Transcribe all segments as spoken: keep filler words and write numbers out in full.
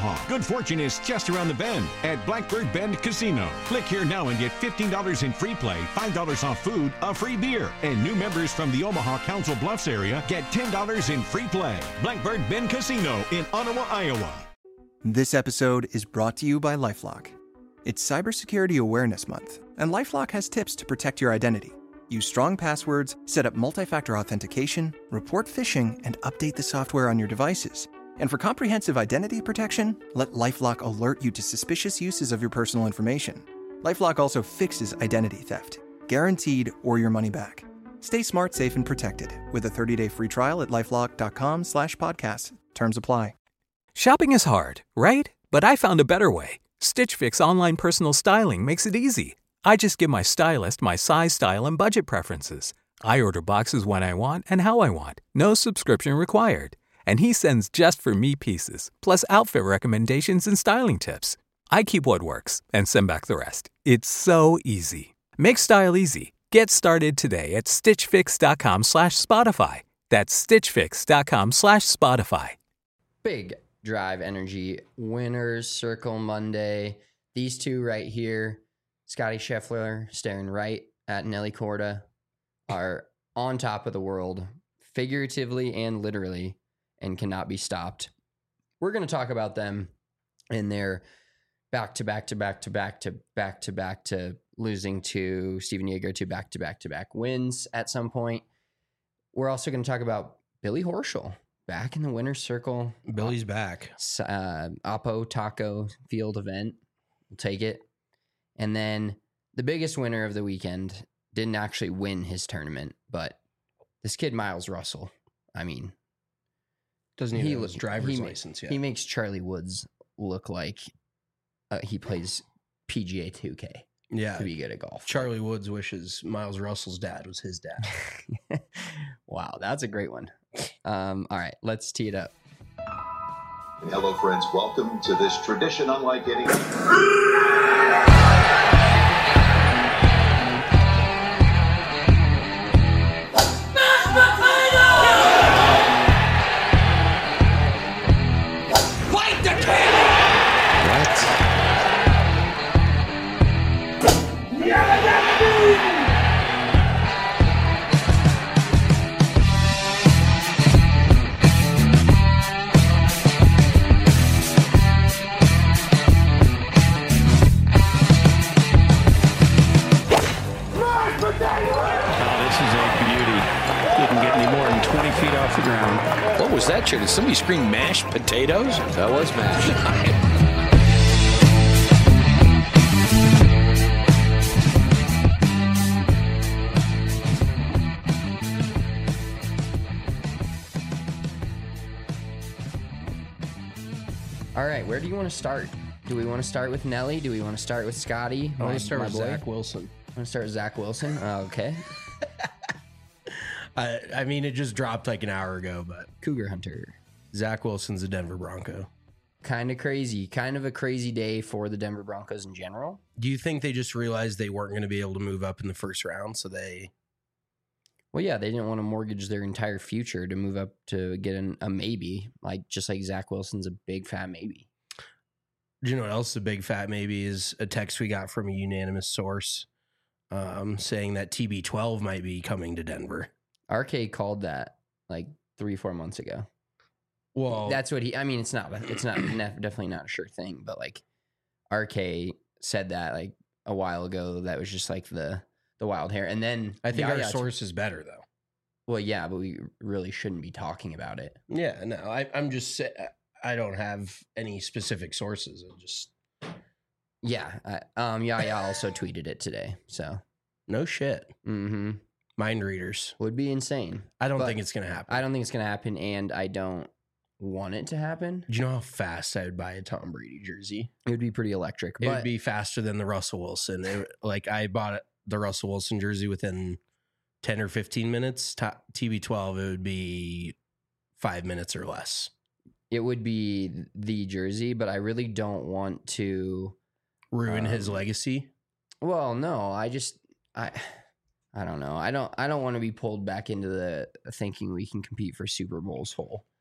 Omaha. Good fortune is just around the bend at Blackbird Bend Casino. Click here now and get fifteen dollars in free play, five dollars off food, a free beer. And new members from the Omaha Council Bluffs area get ten dollars in free play. Blackbird Bend Casino in Ottawa, Iowa. This episode is brought to you by LifeLock. It's Cybersecurity Awareness Month, and LifeLock has tips to protect your identity. Use strong passwords, set up multi-factor authentication, report phishing, and update the software on your devices. And for comprehensive identity protection, let LifeLock alert you to suspicious uses of your personal information. LifeLock also fixes identity theft, guaranteed or your money back. Stay smart, safe, and protected with a thirty-day free trial at LifeLock.com slash podcast. Terms apply. Shopping is hard, right? But I found a better way. Stitch Fix online personal styling makes it easy. I just give my stylist my size, style, and budget preferences. I order boxes when I want and how I want. No subscription required. And he sends just for me pieces, plus outfit recommendations and styling tips. I keep what works and send back the rest. It's so easy. Make style easy. Get started today at stitchfix.com slash Spotify. That's stitchfix.com slash Spotify. Big Drive Energy Winners Circle Monday. These two right here, Scotty Scheffler staring right at Nelly Korda, are on top of the world, figuratively and literally, and cannot be stopped. We're going to talk about them in their back to back to back to back to back to back to losing to Steven Yeager to back to back to back wins at some point. We're also going to talk about Billy Horschel back in the winner's circle. Billy's back. Uh, Oppo Taco Field event. We'll take it. And then the biggest winner of the weekend didn't actually win his tournament, but this kid, Miles Russell, I mean, doesn't even he have his look- driver's he ma- license yet. He makes Charlie Woods look like uh, he plays P G A two K yeah. to be good at golf. Charlie Woods wishes Miles Russell's dad was his dad. Wow, that's a great one. Um, all right, let's tee it up. Hello, friends. Welcome to this tradition unlike any. What was that, Chair? Did somebody scream mashed potatoes? That was mashed. All right, where do you want to start? Do we want to start with Nelly? Do we want to start with Scotty? I want My- to start my with boy? Zach Wilson. I want to start with Zach Wilson. Oh, okay. I, I mean, it just dropped like an hour ago, but Cougar Hunter. Zach Wilson's a Denver Bronco. Kind of crazy. Kind of a crazy day for the Denver Broncos in general. Do you think they just realized they weren't going to be able to move up in the first round, so they... Well, yeah, they didn't want to mortgage their entire future to move up to get an, a maybe, like just like Zach Wilson's a big fat maybe. Do you know what else a big fat maybe is? A text we got from a unanimous source um, saying that T B twelve might be coming to Denver. R K called that like three, four months ago. Well, That's what he, I mean, it's not, it's not, nef- definitely not a sure thing, but like R K said that like a while ago. That was just like the, the wild hair. And then I think our Yaya- source is better, though. Well, yeah, but we really shouldn't be talking about it. Yeah, no, I, I'm just sa- I don't have any specific sources. I just Yeah. I, um, Yaya also tweeted it today. So, no shit. mm-hmm. Mind readers. Would be insane. I don't But think it's gonna happen. I don't think it's going to happen, and I don't want it to happen. Do you know how fast I would buy a Tom Brady jersey? It would be pretty electric. It But would be faster than the Russell Wilson. It, like I bought the Russell Wilson jersey within ten or fifteen minutes. T B twelve, it would be five minutes or less. it would be the jersey, but I really don't want to Ruin um, his legacy. Well, no, I just I I don't know. I don't I don't want to be pulled back into the thinking we can compete for Super Bowls whole.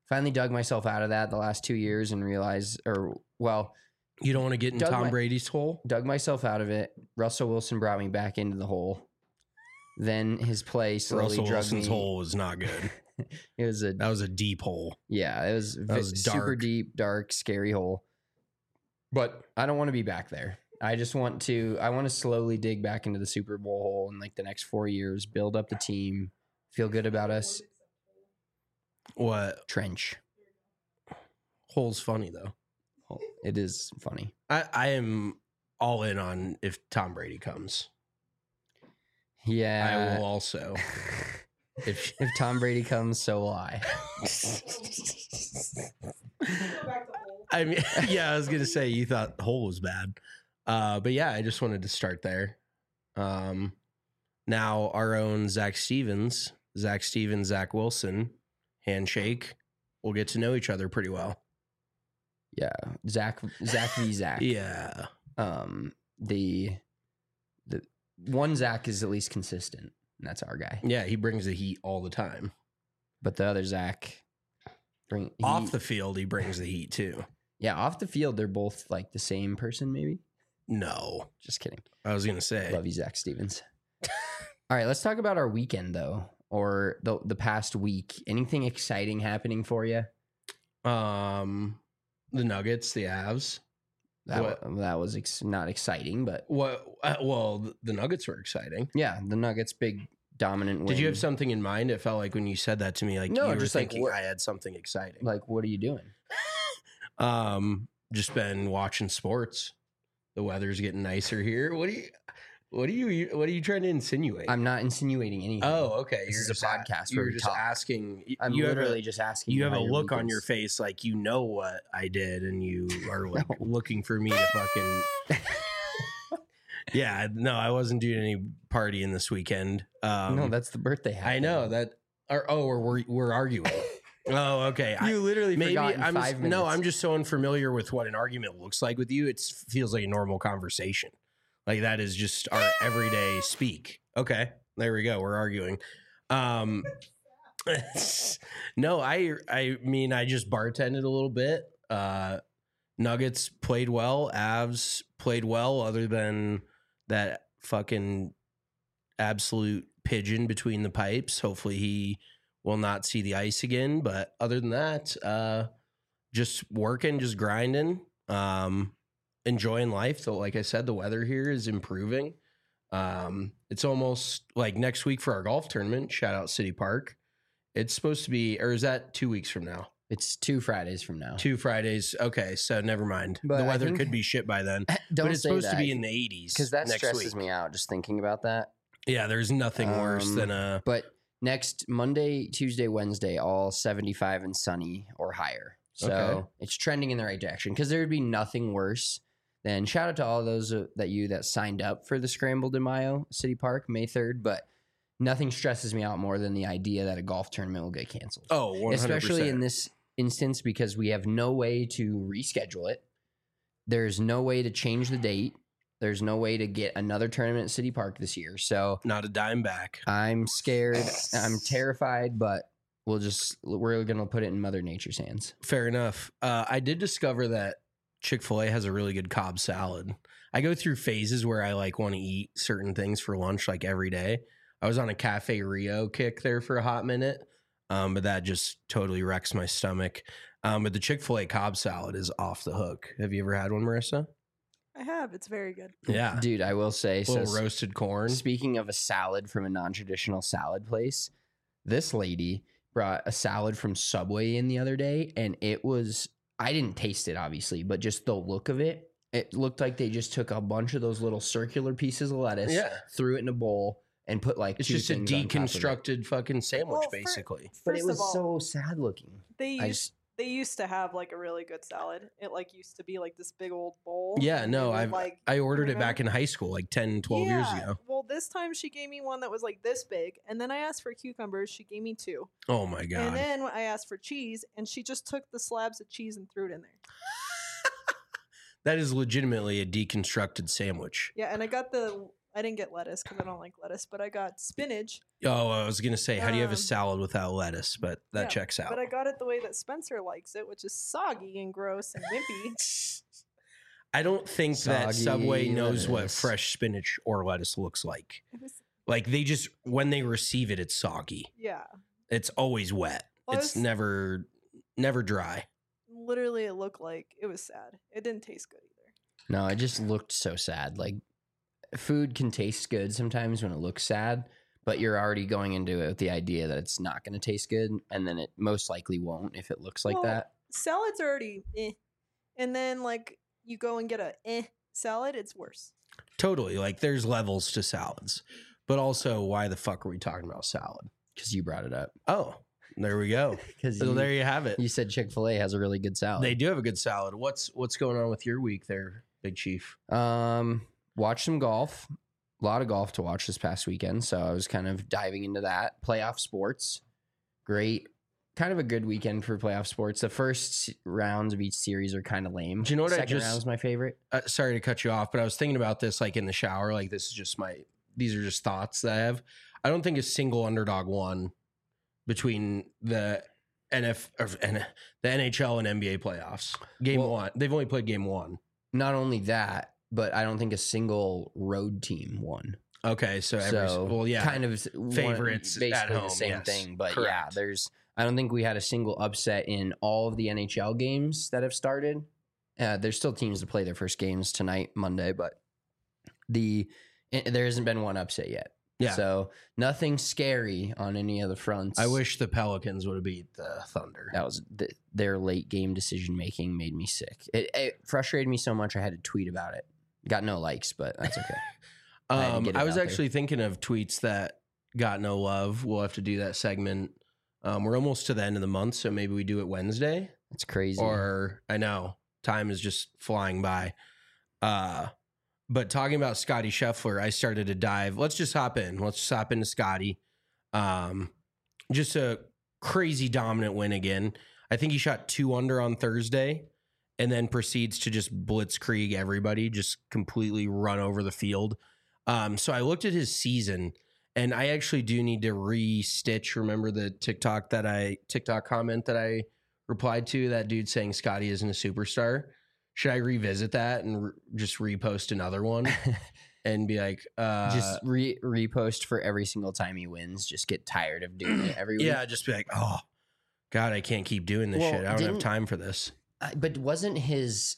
finally dug myself out of that the last two years and realized, or well, You don't want to get in Dug Tom my- Brady's hole? dug myself out of it. Russell Wilson brought me back into the hole. Then his play slowly Russell drug Wilson's me. hole was not good. It was a That was a deep hole. yeah, it was, That vi- was super dark. deep, dark, scary hole. But I don't want to be back there. I just want to. I want to slowly dig back into the Super Bowl hole in like the next four years. Build up the team. Feel good about us. What? Trench. Hole's funny, though. It is funny. I, I am all in on if Tom Brady comes. Yeah. I will also. If If Tom Brady comes, so will I. I mean, yeah, I was gonna say you thought the hole was bad, uh, but yeah, I just wanted to start there. Um, now our own Zach Stevens, Zach Stevens, Zach Wilson, handshake. We'll get to know each other pretty well. Yeah. Zach. Zach v. Zach. Yeah, Um. The. The one Zach is at least consistent. And that's our guy. yeah, he brings the heat all the time. But the other Zach. Bring he- Off the field, he brings the heat too. Yeah. Off the field, they're both like the same person. Maybe. No, Just kidding. I was gonna say. Love you, Zach Stevens. All right, let's talk about our weekend though, or the the past week. Anything exciting happening for you? Um, the Nuggets, the Avs. That What? wa- that was ex- not exciting, but What? Uh, well, the- the Nuggets were exciting. yeah, the Nuggets big dominant win. Did you have something in mind? It felt like when you said that to me, like No, you were just like thinking what- I had something exciting. Like, what are you doing? Um, just been watching sports. The weather's getting nicer here. What do you? What are you? What are you trying to insinuate? I'm not insinuating anything. oh, okay. This You're is a just a- podcast You where were we just talk. asking. y- I'm you literally have a, just asking. You have how a your look on weekend's- your face like you know what I did, and you are like looking for me to fucking. Yeah, no, I wasn't doing any partying this weekend. Um, no, that's the birthday. I know that. Or, oh, we're we're, we're arguing. Oh, okay. I- You literally maybe forgot in I'm five just, minutes. no, I'm just so unfamiliar with what an argument looks like with you. It feels like a normal conversation. Like that is just our everyday speak. Okay, there we go. We're arguing. Um, no, I I mean I just bartended a little bit. Uh, Nuggets played well. Avs played well. Other than that fucking absolute pigeon between the pipes. Hopefully he will not see the ice again. But other than that, uh, just working, just grinding, um, enjoying life. So, like I said, the weather here is improving. Um, it's almost like next week for our golf tournament. Shout out City Park. It's supposed to be, or is that two weeks from now? It's two Fridays from now. Two Fridays. Okay, so never mind. But the I weather think- could be shit by then. Don't but it's say supposed to that, be in the eighties because that next stresses week. me out just thinking about that. Yeah, there's nothing worse Um, than a. But next Monday, Tuesday, Wednesday, all seventy-five and sunny or higher. So Okay. it's trending in the right direction because there would be nothing worse than shout out to all those uh, that you that signed up for the Scramble de Mayo City Park May third. But nothing stresses me out more than the idea that a golf tournament will get canceled. Oh, one hundred percent. Especially in this instance because we have no way to reschedule it. There's no way to change the date. There's no way to get another tournament at City Park this year. So Not a dime back. I'm scared. I'm terrified, but we'll just we're gonna put it in Mother Nature's hands. Fair enough. Uh, I did discover that Chick-fil-A has a really good Cobb salad. I go through phases where I like want to eat certain things for lunch like every day. I was on a Cafe Rio kick there for a hot minute, um, but that just totally wrecks my stomach. Um, but the Chick-fil-A Cobb salad is off the hook. Have you ever had one, Marissa? I have. It's very good. Yeah. Dude, I will say so. little roasted corn. Speaking of a salad from a non-traditional salad place, this lady brought a salad from Subway in the other day, and it was I didn't taste it obviously, but just the look of it, it looked like they just took a bunch of those little circular pieces of lettuce, Yeah. threw it in a bowl, and put like It's two just a things on top of it. deconstructed fucking sandwich, Well, for- basically. But First it was of all, so sad looking. they I used just they used to have like a really good salad. It like used to be like this big old bowl. Yeah, and no, they would, I've like I ordered it back remember- in high school, like ten, twelve years Yeah. ago. Well, this time she gave me one that was like this big, and then I asked for cucumbers. She gave me two, Oh my and god. then I asked for cheese, and she just took the slabs of cheese and threw it in there. That is legitimately a deconstructed sandwich. Yeah, and I got the I didn't get lettuce because I don't like lettuce, but I got spinach. Oh, I was gonna say, how do you have a Um, salad without lettuce? But that Yeah, checks out. But I got it the way that Spencer likes it, which is soggy and gross and wimpy. I don't think that Soggy Subway knows what lettuce. fresh spinach or lettuce looks like. It was, Like they just when they receive it, it's soggy. yeah. It's always wet. Well, It's it's- never never dry. Literally, it looked like it was sad. It didn't taste good either. No, it just looked so sad. Like food can taste good sometimes when it looks sad, but you're already going into it with the idea that it's not going to taste good, and then it most likely won't if it looks like Well, that. Salad's already eh. And then, like, you go and get a eh salad, it's worse. Totally. Like there's levels to salads. But also, why the fuck are we talking about salad? Because you brought it up. Oh, there we go. Because So you, there you have it. you said Chick-fil-A has a really good salad. They do have a good salad. What's what's going on with your week there, Big Chief? Um, watch some golf. A lot of golf to watch this past weekend, so I was kind of diving into that. Playoff sports, great, kind of a good weekend for playoff sports. The first s- rounds of each series are kind of lame. Do you know what I Second just- round is my favorite. Uh, sorry to cut you off, but I was thinking about this like in the shower. Like this is just my these are just thoughts that I have. I don't think a single underdog won between the N F or N- the N H L and N B A playoffs. Game Well- one, they've only played game one. Not only that, but I don't think a single road team won. Okay, so every So well, yeah, kind of one- favorites at basically home, the same yes. thing. But yeah, Correct. there's I don't think we had a single upset in all of the N H L games that have started. Uh, there's still teams to play their first games tonight, Monday, but the eh, there hasn't been one upset yet. Yeah. So nothing scary on any of the fronts. I wish the Pelicans would have beat the Thunder. that was the, their late game decision making made me sick. It, it frustrated me so much I had to tweet about it. Got no likes, but that's okay. I had to Um, get it I was out there. actually thinking of tweets that got no love. We'll have to do that segment. Um, we're almost to the end of the month, so maybe we do it Wednesday. That's crazy. Or I know time is just flying by. Uh, but talking about Scotty Scheffler, I started to dive. Let's just hop in. Let's just hop into Scotty. Um, just a crazy dominant win again. I think he shot two under on Thursday and then proceeds to just blitzkrieg everybody, just completely run over the field. Um, so I looked at his season, and I actually do need to re-stitch. Remember the TikTok that I TikTok comment that I replied to? That dude saying Scotty isn't a superstar. Should I revisit that and re- just repost another one and be like, uh, just re- repost for every single time he wins. Just get tired of doing it every week. yeah, just be like, oh God, I can't keep doing this Well, shit. I don't have didn't- time for this. Uh, but wasn't his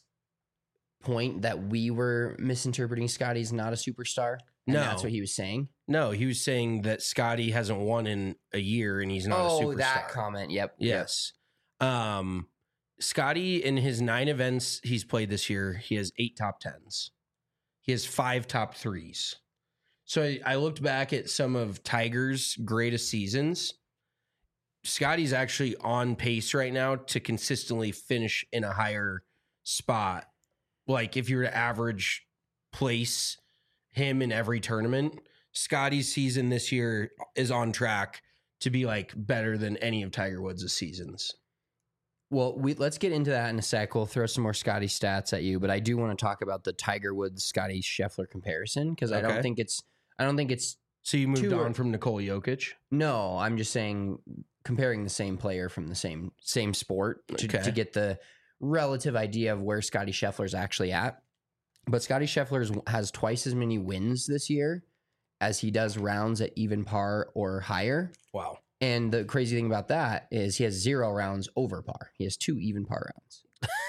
point that we were misinterpreting Scotty's not a superstar? And No. that's what he was saying. No, he was saying that Scotty hasn't won in a year and he's not a oh, superstar. that comment. Yep. yep. Yes. Um, Scotty, in his nine events he's played this year, he has eight top tens. He has five top threes. So I, I looked back at some of Tiger's greatest seasons. Scotty's actually on pace right now to consistently finish in a higher spot. Like if you were to average place him in every tournament, Scotty's season this year is on track to be like better than any of Tiger Woods' seasons. Well, we let's get into that in a sec. We'll throw some more Scotty stats at you, but I do want to talk about the Tiger Woods Scotty Scheffler comparison because I Okay. don't think it's I don't think it's So you moved Two on are- from Nicole Jokic. no. I'm just saying comparing the same player from the same same sport to, Okay. to get the relative idea of where Scotty Scheffler's actually at. But Scotty Scheffler has twice as many wins this year as he does rounds at even par or higher. Wow. And the crazy thing about that is he has zero rounds over par. He has two even par rounds.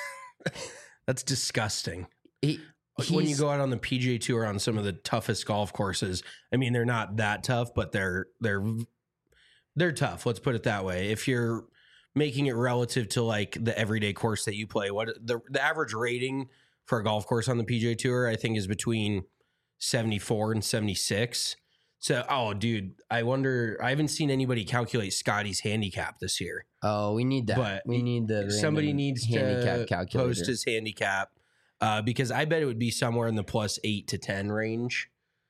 That's disgusting. He, Like when you he's- go out on the P G A Tour on some of the toughest golf courses, I mean, they're not that tough, but they're they're they're tough. Let's put it that way. If you're making it relative to like the everyday course that you play, what the the average rating for a golf course on the P G A Tour, I think, is between seventy-four and seventy-six. So, oh, dude, I wonder. I haven't seen anybody calculate Scotty's handicap this year. oh, we need that. But we need the Somebody random needs handicap to calculator. post his handicap uh, because I bet it would be somewhere in the plus eight to ten range.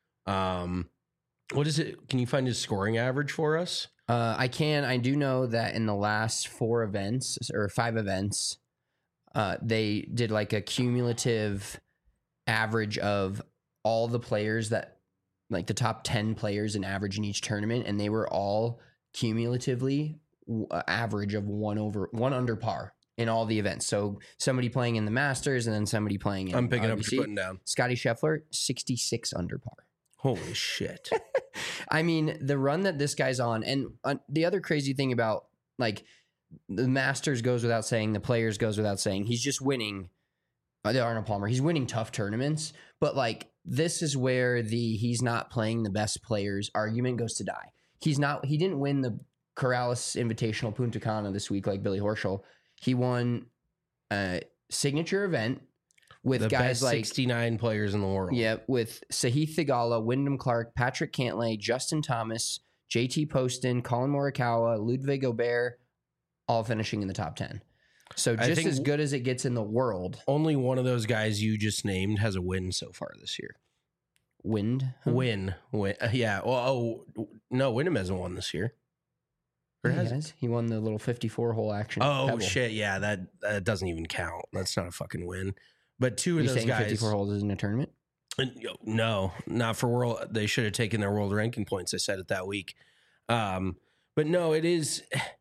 Um, what is it? Can you find his scoring average for us? Uh, I can. I do know that in the last four events or five events, uh, they did like a cumulative average of all the players that like the top ten players in average in each tournament, and they were all cumulatively w- uh, average of one over one under par in all the events. So somebody playing in the Masters and then somebody playing in I'm picking R B C. up what you're putting down. Scotty Scheffler, sixty-six under par. Holy shit. I mean, the run that this guy's on, and uh, the other crazy thing about like the Masters goes without saying, the Players goes without saying, he's just winning. Uh, the Arnold Palmer, he's winning tough tournaments, but like this is where the he's not playing the best players argument goes to die. He's not. He didn't win the Corrales Invitational Punta Cana this week like Billy Horschel. He won a signature event with the guys best like sixty-nine players in the world. Yeah, with Sahith Theegala, Wyndham Clark, Patrick Cantlay, Justin Thomas, J T Poston, Colin Morikawa, Ludwig Gobert, all finishing in the top ten. So I just think as good as it gets in the world. Only one of those guys you just named has a win so far this year. Wind? Huh? Win. Win. Uh, yeah. Well, oh, no, Wyndham hasn't won this year. Or Yeah, has he, has. He won the little fifty-four hole action. at Oh, Pebble. shit. Yeah, that, that doesn't even count. That's not a fucking win. But two of You those saying guys. fifty-four holes isn't a tournament? And, yo, no, not for world. They should have taken their world ranking points. I said it that week. Um, but no, it is.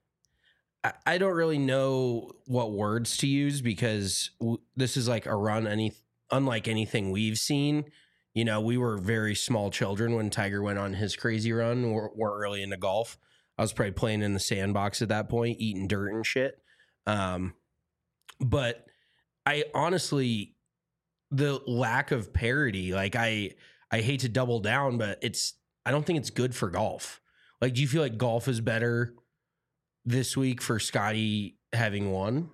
I, I don't really know what words to use because w- this is like a run, any unlike anything we've seen. You know, we were very small children when Tiger went on his crazy run. We're, we're early into golf. I was probably playing in the sandbox at that point, eating dirt and shit. Um, but I honestly, the lack of parity, like I, I hate to double down, but it's, I don't think it's good for golf. Like, do you feel like golf is better this week for Scotty having won?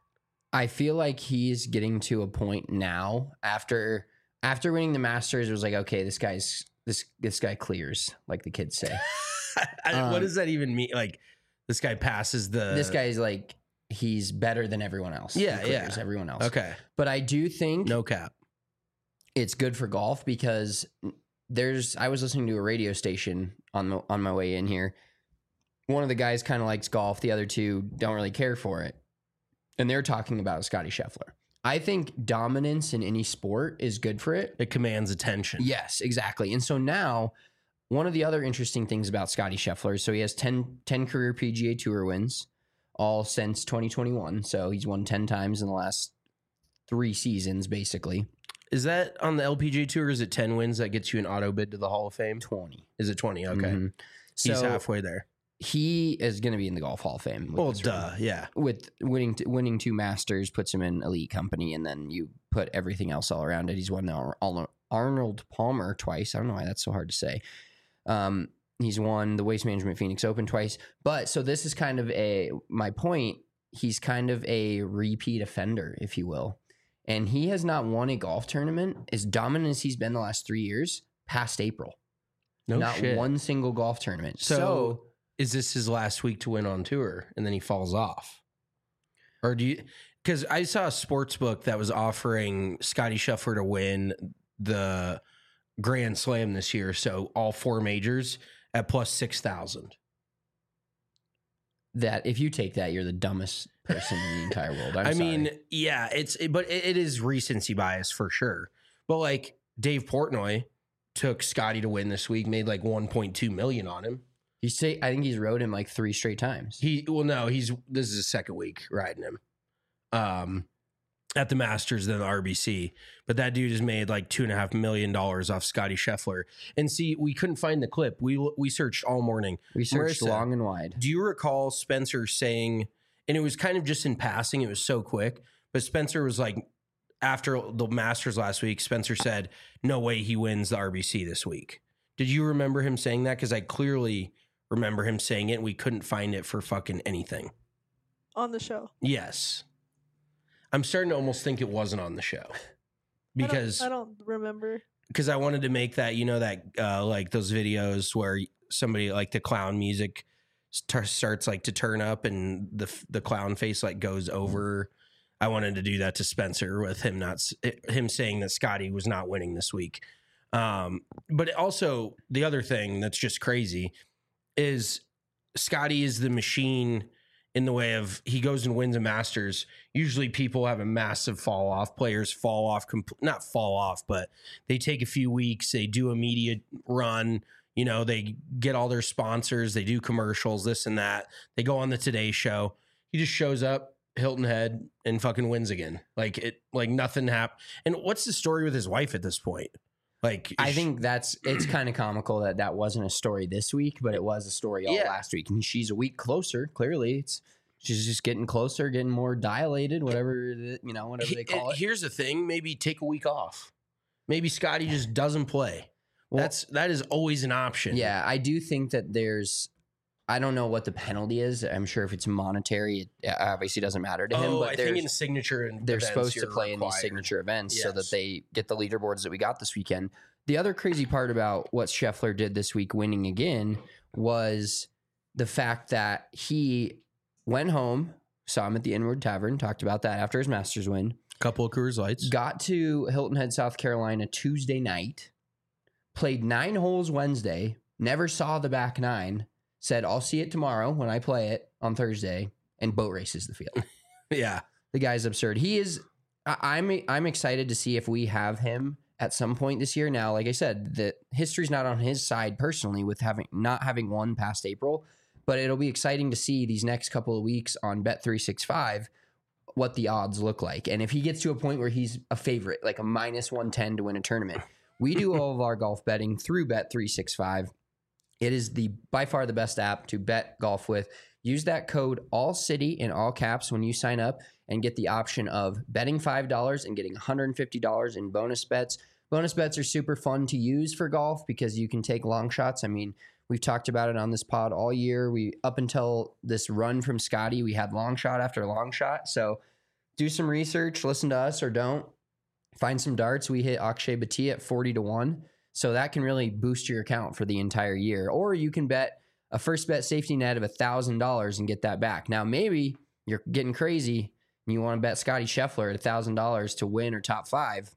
I feel like he's getting to a point now after after winning the Masters. It was like, okay, this guy's this this guy clears, like the kids say. I, Um, what does that even mean? Like, this guy passes the. This guy's like he's better than everyone else. Yeah, He clears yeah. everyone else. Okay. But I do think No cap. it's good for golf because there's I was listening to a radio station on the, on my way in here. One of the guys kind of likes golf, the other two don't really care for it. And they're talking about Scotty Scheffler. I think dominance in any sport is good for it. It commands attention. Yes, exactly. And so now one of the other interesting things about Scotty Scheffler, so he has ten, ten career P G A Tour wins, all since twenty twenty-one. So he's won ten times in the last three seasons, basically. Is that on the L P G A Tour? Is it ten wins that gets you an auto bid to the Hall of Fame? twenty. Is it twenty? Okay. Mhm. He's So halfway there. he is going to be in the Golf Hall of Fame. with Well, this duh. run. Yeah. With winning t- winning two Masters puts him in elite company, and then you put everything else all around it. He's won the Ar- Ar- Arnold Palmer twice. I don't know why that's so hard to say. Um, he's won the Waste Management Phoenix Open twice. But so this is kind of a my point. He's kind of a repeat offender, if you will, and he has not won a golf tournament as dominant as he's been the last three years past April. No not shit. one single golf tournament. So, so is this his last week to win on tour and then he falls off? Or do you, because I saw a sports book that was offering Scotty Scheffler to win the Grand Slam this year. So all four majors at plus six thousand. that if you take that, you're the dumbest person in the entire world. I'm I sorry. mean, yeah, it's, it, but it, it is recency bias for sure. But like Dave Portnoy took Scotty to win this week, made like one point two million on him. he's say I think he's rode him like three straight times. He well, no, he's this is his second week riding him, um, at the Masters than the R B C. But that dude has made like two and a half million dollars off Scotty Scheffler. And see, we couldn't find the clip. We we searched all morning. We searched Marissa, long and wide. Do you recall Spencer saying? And it was kind of just in passing. It was so quick. But Spencer was like, after the Masters last week, Spencer said, "No way he wins the R B C this week." Did you remember him saying that? Because I clearly remember him saying it. And we couldn't find it for fucking anything. On the show. Yes. I'm starting to almost think it wasn't on the show because I don't, I don't remember. because I wanted to make that, you know, that uh, like those videos where somebody like the clown music st- starts like to turn up and the the clown face like goes over. I wanted to do that to Spencer with him not s- him saying that Scotty was not winning this week. Um, but also the other thing that's just crazy is Scotty is the machine in the way of he goes and wins a Masters. Usually people have a massive fall off. Players fall off, compl- not fall off, but they take a few weeks. They do a media run. You know, they get all their sponsors. They do commercials, this and that. They go on the Today Show. He just shows up, Hilton Head, and fucking wins again. Like it, like nothing happened. And what's the story with his wife at this point? Like, I think that's it's kind of comical that that wasn't a story this week, but it was a story all Yeah. last week. And she's a week closer. Clearly, it's she's just getting closer, getting more dilated, whatever the, you know, whatever they call it. Here's the thing: maybe take a week off. Maybe Scotty just doesn't play. Well, that's that is always an option. Yeah, I do think that there's. I don't know what the penalty is. I'm sure if it's monetary, it obviously doesn't matter to him. Oh, But I there's- think in signature and they're events, supposed to you're play in these required. signature events so that Yes. they get the leaderboards that we got this weekend. The other crazy part about what Scheffler did this week, winning again, was the fact that he went home, saw him at the Inward Tavern, talked about that after his Masters win, Couple of Coors Lights. got to Hilton Head, South Carolina Tuesday night, played nine holes Wednesday, never saw the back nine, said, I'll see it tomorrow when I play it on Thursday, and boat races the field. Yeah. The guy's absurd. He is. I, I'm. I'm excited to see if we have him at some point this year. Now, like I said, the history's not on his side personally with having not having won past April, but it'll be exciting to see these next couple of weeks on Bet three sixty-five what the odds look like, and if he gets to a point where he's a favorite, like a minus one ten to win a tournament. We do all of our golf betting through Bet three sixty-five. It is the by far the best app to bet golf with. Use that code ALLCITY in all caps when you sign up and get the option of betting five dollars and getting one hundred fifty dollars in bonus bets. Bonus bets are super fun to use for golf because you can take long shots. I mean, we've talked about it on this pod all year. We up until this run from Scotty, we had long shot after long shot. So do some research, listen to us or don't. Find some darts. We hit Akshay Bhatia at forty to one. So that can really boost your account for the entire year. Or you can bet a first bet safety net of one thousand dollars and get that back. Now, maybe you're getting crazy and you want to bet Scotty Scheffler at one thousand dollars to win or top five.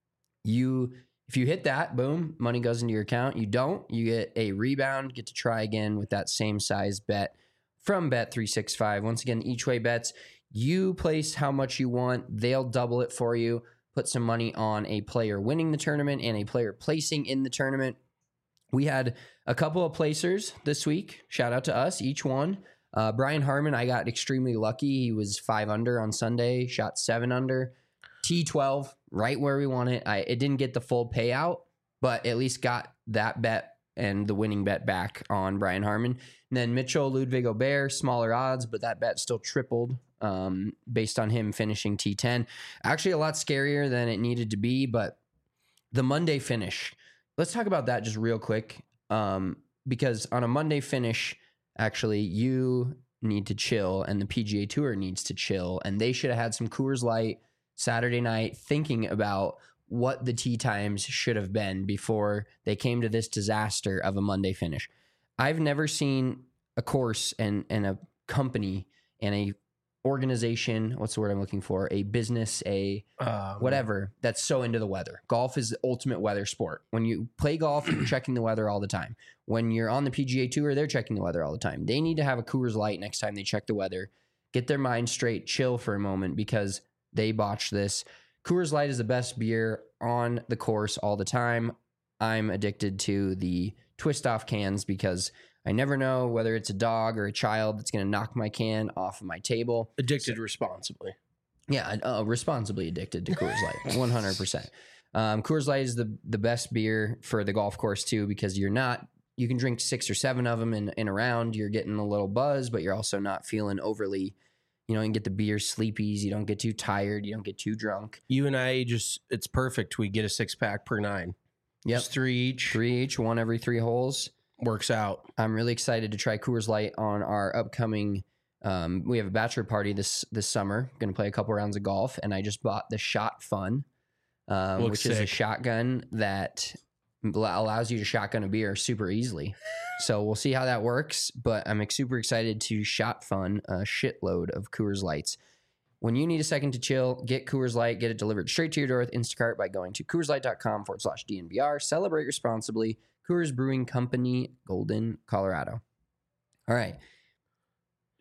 You, if you hit that, boom, money goes into your account. You don't, you get a rebound, get to try again with that same size bet from Bet three sixty-five. Once again, each way bets. You place how much you want. They'll double it for you. Put some money on a player winning the tournament and a player placing in the tournament. We had a couple of placers this week. Shout out to us, each one. Uh, Brian Harmon, I got extremely lucky. He was five under on Sunday, shot seven under. T twelve, right where we want it. I, it didn't get the full payout, but at least got that bet and the winning bet back on Brian Harmon. And then Mitchell Ludwig Aubert, smaller odds, but that bet still tripled um, based on him finishing T ten. Actually, a lot scarier than it needed to be, but the Monday finish. Let's talk about that just real quick, um, because on a Monday finish, actually, you need to chill, and the P G A Tour needs to chill, and they should have had some Coors Light Saturday night thinking about what the tee times should have been before they came to this disaster of a Monday finish. I've never seen a course and, and a company and a organization, what's the word I'm looking for, a business, a Um, whatever, that's so into the weather. Golf is the ultimate weather sport. When you play golf, you're checking the weather all the time. When you're on the P G A Tour, they're checking the weather all the time. They need to have a Coors Light next time they check the weather, get their mind straight, chill for a moment because they botched this. Coors Light is the best beer on the course all the time. I'm addicted to the twist off cans because I never know whether it's a dog or a child that's going to knock my can off of my table. addicted responsibly. Yeah, uh, responsibly addicted to Coors Light, one hundred percent. Um, Coors Light is the the best beer for the golf course too because you're not, you can drink six or seven of them in, in a round. You're getting a little buzz, but you're also not feeling overly, you know, you can get the beer sleepies. You don't get too tired. You don't get too drunk. You and I just, it's perfect. We get a six pack per nine. Yep. Just three each. Three each, one every three holes. Works out. I'm really excited to try Coors Light on our upcoming. Um, we have a bachelor party this this summer. Going to play a couple rounds of golf, and I just bought the Shot Fun, um, Looks which is a sick. shotgun that allows you to shotgun a beer super easily. So we'll see how that works. But I'm super excited to Shot Fun a shitload of Coors Lights. When you need a second to chill, get Coors Light. Get it delivered straight to your door with Instacart by going to CoorsLight.com forward slash DNVR. Celebrate responsibly. Coors Brewing Company, Golden, Colorado. All right.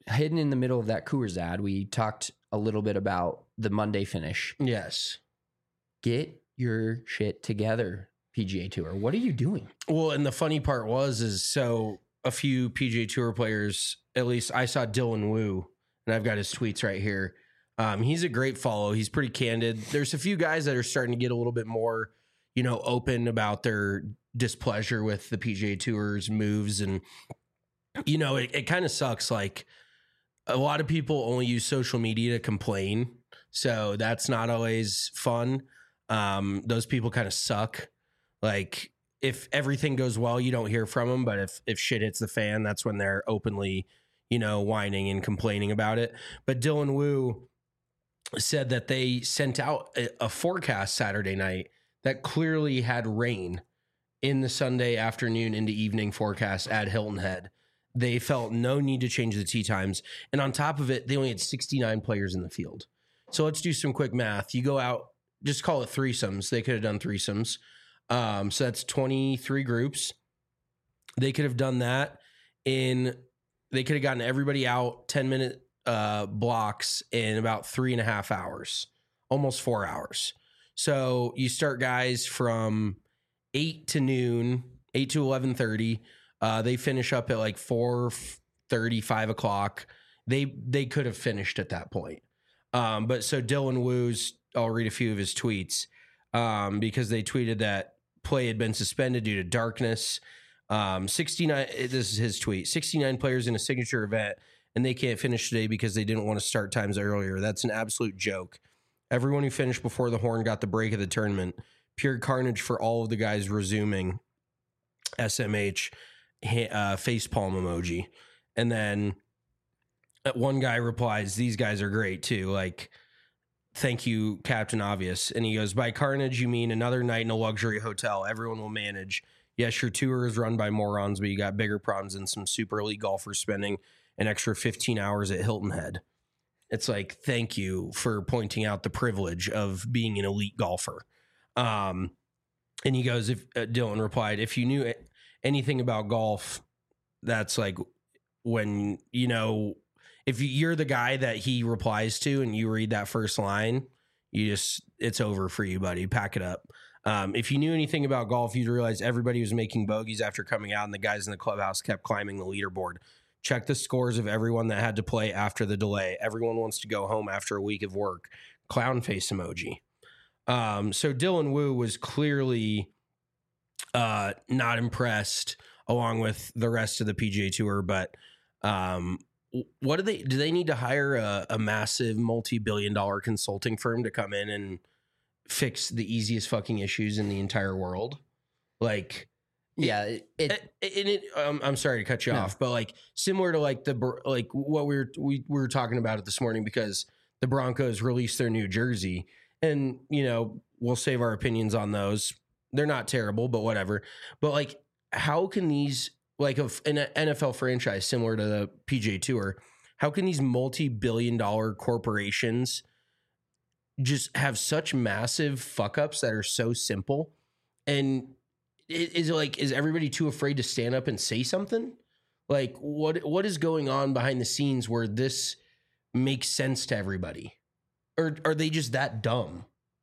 hidden in the middle of that Coors ad, we talked a little bit about the Monday finish. Yes. Get your shit together, P G A Tour. What are you doing? Well, and the funny part was, is so a few P G A Tour players, at least I saw Dylan Wu, and I've got his tweets right here. Um, he's a great follow. He's pretty candid. There's a few guys that are starting to get a little bit more, you know, open about their displeasure with the P G A Tour's moves. And, you know, it, it kind of sucks. Like, a lot of people only use social media to complain. So that's not always fun. Um, those people kind of suck. Like, if everything goes well, you don't hear from them. But if, if shit hits the fan, that's when they're openly, you know, whining and complaining about it. But Dylan Wu said that they sent out a, a forecast Saturday night that clearly had rain in the Sunday afternoon into evening forecast at Hilton Head. They felt no need to change the tee times. And on top of it, they only had sixty-nine players in the field. So let's do some quick math. You go out, just call it threesomes. They could have done threesomes. Um, so that's twenty-three groups. They could have done that in, they could have gotten everybody out ten minute uh, blocks in about three and a half hours, almost four hours. So you start guys from eight to noon, eight to eleven thirty. Uh, they finish up at like four thirty, five o'clock. They they could have finished at that point. Um, but so Dylan Wu's, I'll read a few of his tweets um, because they tweeted that play had been suspended due to darkness. Um, sixty-nine, this is his tweet, sixty-nine players in a signature event, and they can't finish today because they didn't want to start times earlier. That's an absolute joke. Everyone who finished before the horn got the break of the tournament. Pure carnage for all of the guys resuming. S M H uh, facepalm emoji. And then one guy replies, these guys are great too. Like, thank you, Captain Obvious. And he goes, by carnage, you mean another night in a luxury hotel. Everyone will manage. Yes, your tour is run by morons, but you got bigger problems than some super elite golfers spending an extra fifteen hours at Hilton Head. It's like, thank you for pointing out the privilege of being an elite golfer. Um, and he goes, if uh, Dylan replied, if you knew anything about golf, that's like when, you know, if you're the guy that he replies to and you read that first line, you just, it's over for you, buddy. Pack it up. Um, if you knew anything about golf, you'd realize everybody was making bogeys after coming out and the guys in the clubhouse kept climbing the leaderboard. Check the scores of everyone that had to play after the delay. Everyone wants to go home after a week of work. Clown face emoji. Um, so Dylan Wu was clearly uh, not impressed along with the rest of the P G A Tour. But um, what do they, do they need to hire a, a massive multi-billion dollar consulting firm to come in and fix the easiest fucking issues in the entire world? Like, yeah, it, it, it, it um, I'm sorry to cut you no. off, but like similar to like the, like what we were, we, we were talking about it this morning because the Broncos released their new jersey and, you know, we'll save our opinions on those. They're not terrible, but whatever. But like, how can these, like a, an N F L franchise similar to the P G A Tour, how can these multi-billion dollar corporations just have such massive fuck ups that are so simple? And is it like, is everybody too afraid to stand up and say something? Like what, what is going on behind the scenes where this makes sense to everybody? Or are they just that dumb?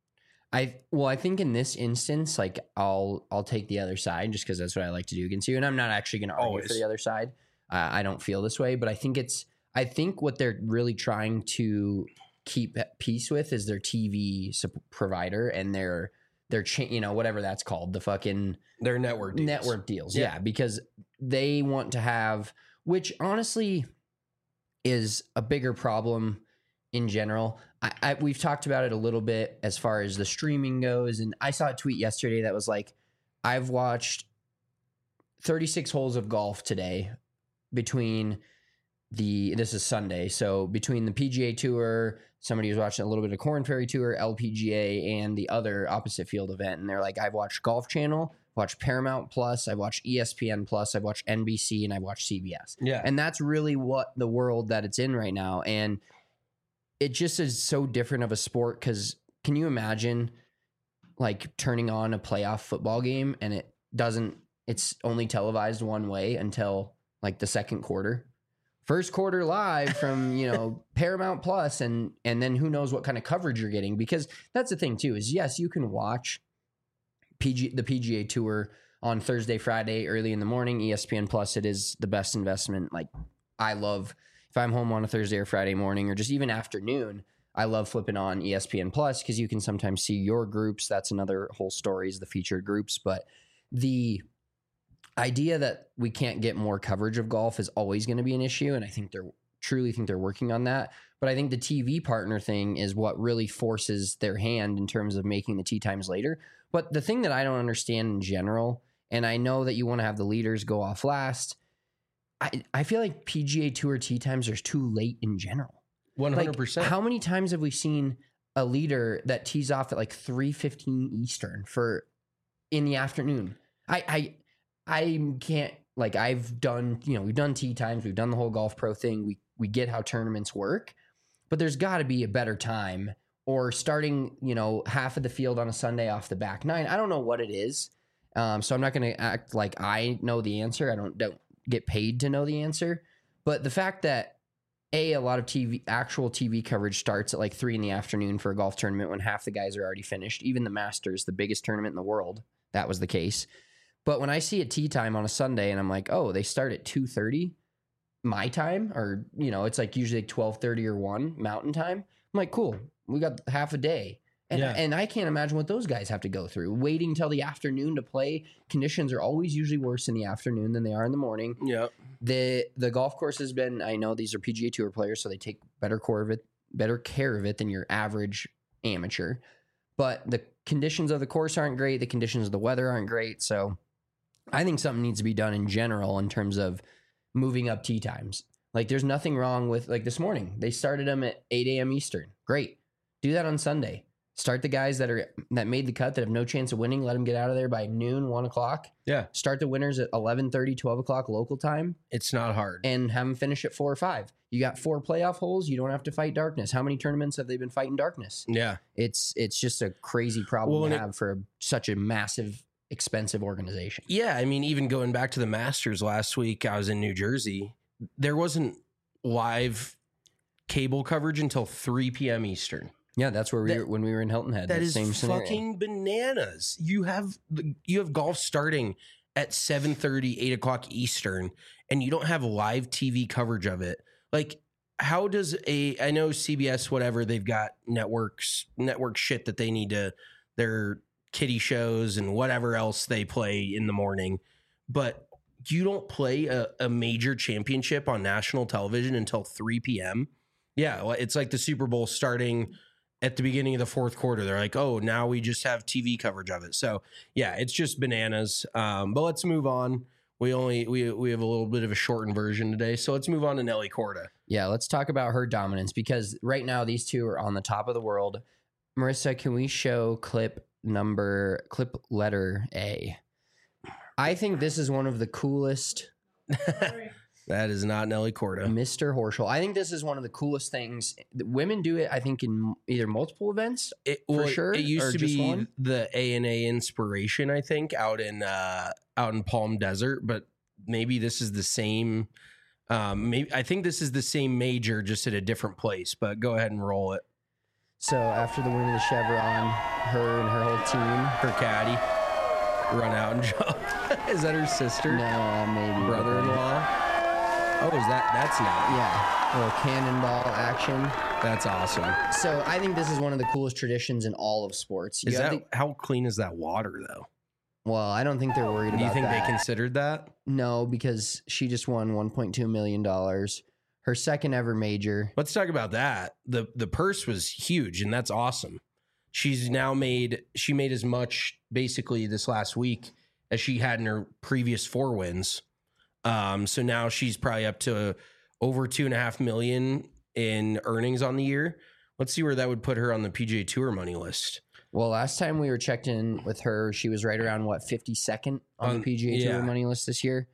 I, well, I think in this instance, like I'll, I'll take the other side just cause that's what I like to do against you. And I'm not actually going to argue Always. for the other side. Uh, I don't feel this way, but I think it's, I think what they're really trying to keep peace with is their T V sup- provider and their, their, cha- you know, whatever that's called, the fucking their network deals. network deals. Yeah. yeah. Because they want to have, which honestly is a bigger problem in general. I, I we've talked about it a little bit as far as the streaming goes. And I saw a tweet yesterday that was like, I've watched thirty-six holes of golf today between the, this is Sunday. So between the P G A Tour, somebody was watching a little bit of Corn Ferry Tour, L P G A, and the other opposite field event. And they're like, I've watched Golf Channel, watched Paramount Plus, I've watched E S P N Plus, I've watched N B C, and I've watched C B S. Yeah. And that's really what the world that it's in right now. And it just is so different of a sport because can you imagine like turning on a playoff football game and it doesn't, it's only televised one way until like the second quarter? first quarter live from, you know, Paramount Plus, and and then who knows what kind of coverage you're getting, because that's the thing too, is yes, you can watch P G the P G A Tour on Thursday, Friday, early in the morning. E S P N Plus, it is the best investment. Like, I love, if I'm home on a Thursday or Friday morning, or just even afternoon, I love flipping on E S P N Plus because you can sometimes see your groups. That's another whole story, is the featured groups. But the idea that we can't get more coverage of golf is always going to be an issue, and I think they're truly think they're working on that. But I think the T V partner thing is what really forces their hand in terms of making the tee times later. But the thing that I don't understand in general, and I know that you want to have the leaders go off last, I, I feel like P G A Tour tee times are too late in general. one hundred percent. Like, how many times have we seen a leader that tees off at like three fifteen Eastern for in the afternoon? I, I I can't, like, I've done, you know, we've done tee times, we've done the whole Golf Pro thing. We we get how tournaments work, but there's got to be a better time, or starting, you know, half of the field on a Sunday off the back nine. I don't know what it is. Um, so I'm not going to act like I know the answer. I don't don't get paid to know the answer. But the fact that A, a lot of T V, actual T V coverage starts at like three in the afternoon for a golf tournament when half the guys are already finished. Even the Masters, the biggest tournament in the world, that was the case. But when I see a tee time on a Sunday and I'm like, oh, they start at two thirty my time, or, you know, it's like usually twelve thirty or one Mountain Time. I'm like, cool, we got half a day. And, Yeah. and I can't imagine what those guys have to go through. Waiting until the afternoon to play. Conditions are always usually worse in the afternoon than they are in the morning. Yeah. The the golf course has been, I know these are P G A Tour players, so they take better care of it, better care of it than your average amateur. But the conditions of the course aren't great. The conditions of the weather aren't great. So I think something needs to be done in general in terms of moving up tee times. Like, there's nothing wrong with, like, this morning, they started them at eight a.m. Eastern. Great. Do that on Sunday. Start the guys that are that made the cut that have no chance of winning. Let them get out of there by noon, one o'clock. Yeah. Start the winners at eleven thirty, twelve o'clock local time. It's not hard. And have them finish at four or five. You got four playoff holes. You don't have to fight darkness. How many tournaments have they been fighting darkness? Yeah. It's it's just a crazy problem Well, to and it- have for a, such a massive, expensive organization. Yeah. I mean, even going back to the Masters last week, I was in New Jersey. There wasn't live cable coverage until three p.m. Eastern. Yeah, that's where we That- were when we were in Hilton Head. That that is same scenario. fucking bananas. You have the- you have golf starting at seven thirty, eight o'clock Eastern, and you don't have live T V coverage of it. Like, how does a I know C B S, whatever, they've got networks, network shit that they need to, their kiddie shows and whatever else they play in the morning, but you don't play a, a major championship on national television until three p.m. Yeah, well, it's like the Super Bowl starting at the beginning of the fourth quarter. They're like, oh, now we just have T V coverage of it. So yeah, it's just bananas. Um, but let's move on. We only we we have a little bit of a shortened version today. So let's move on to Nelly Korda. Yeah, let's talk about her dominance, because right now these two are on the top of the world. Marissa, can we show clip number clip letter A? I think this is one of the coolest. That is not Nelly Korda. Mister Horschel. I think this is one of the coolest things. Women do it, I think, in either multiple events. It, For well, sure, It used or to just be one? the A and A Inspiration, I think, out in uh, out in Palm Desert, but maybe this is the same. Um, maybe I think this is the same major, just at a different place. But go ahead and roll it. So after the win of the Chevron, her and her whole team. Her caddy run out and jump. Is that her sister? No, maybe Brother-in-law. Oh, is that that's not? Yeah, a little cannonball action. That's awesome. So I think this is one of the coolest traditions in all of sports. You Is have that the- how clean is that water though? well, I don't think they're worried Do about you think that. they considered that? No, because she just won one point two million dollars. Her second ever major. Let's talk about that. The the purse was huge, and that's awesome. She's now made she made as much basically this last week as she had in her previous four wins. Um, so now she's probably up to over two and a half million in earnings on the year. Let's see where that would put her on the P G A Tour money list. Well, last time we were checked in with her, she was right around, what, fifty-second on On- the P G A yeah. Tour money list this year?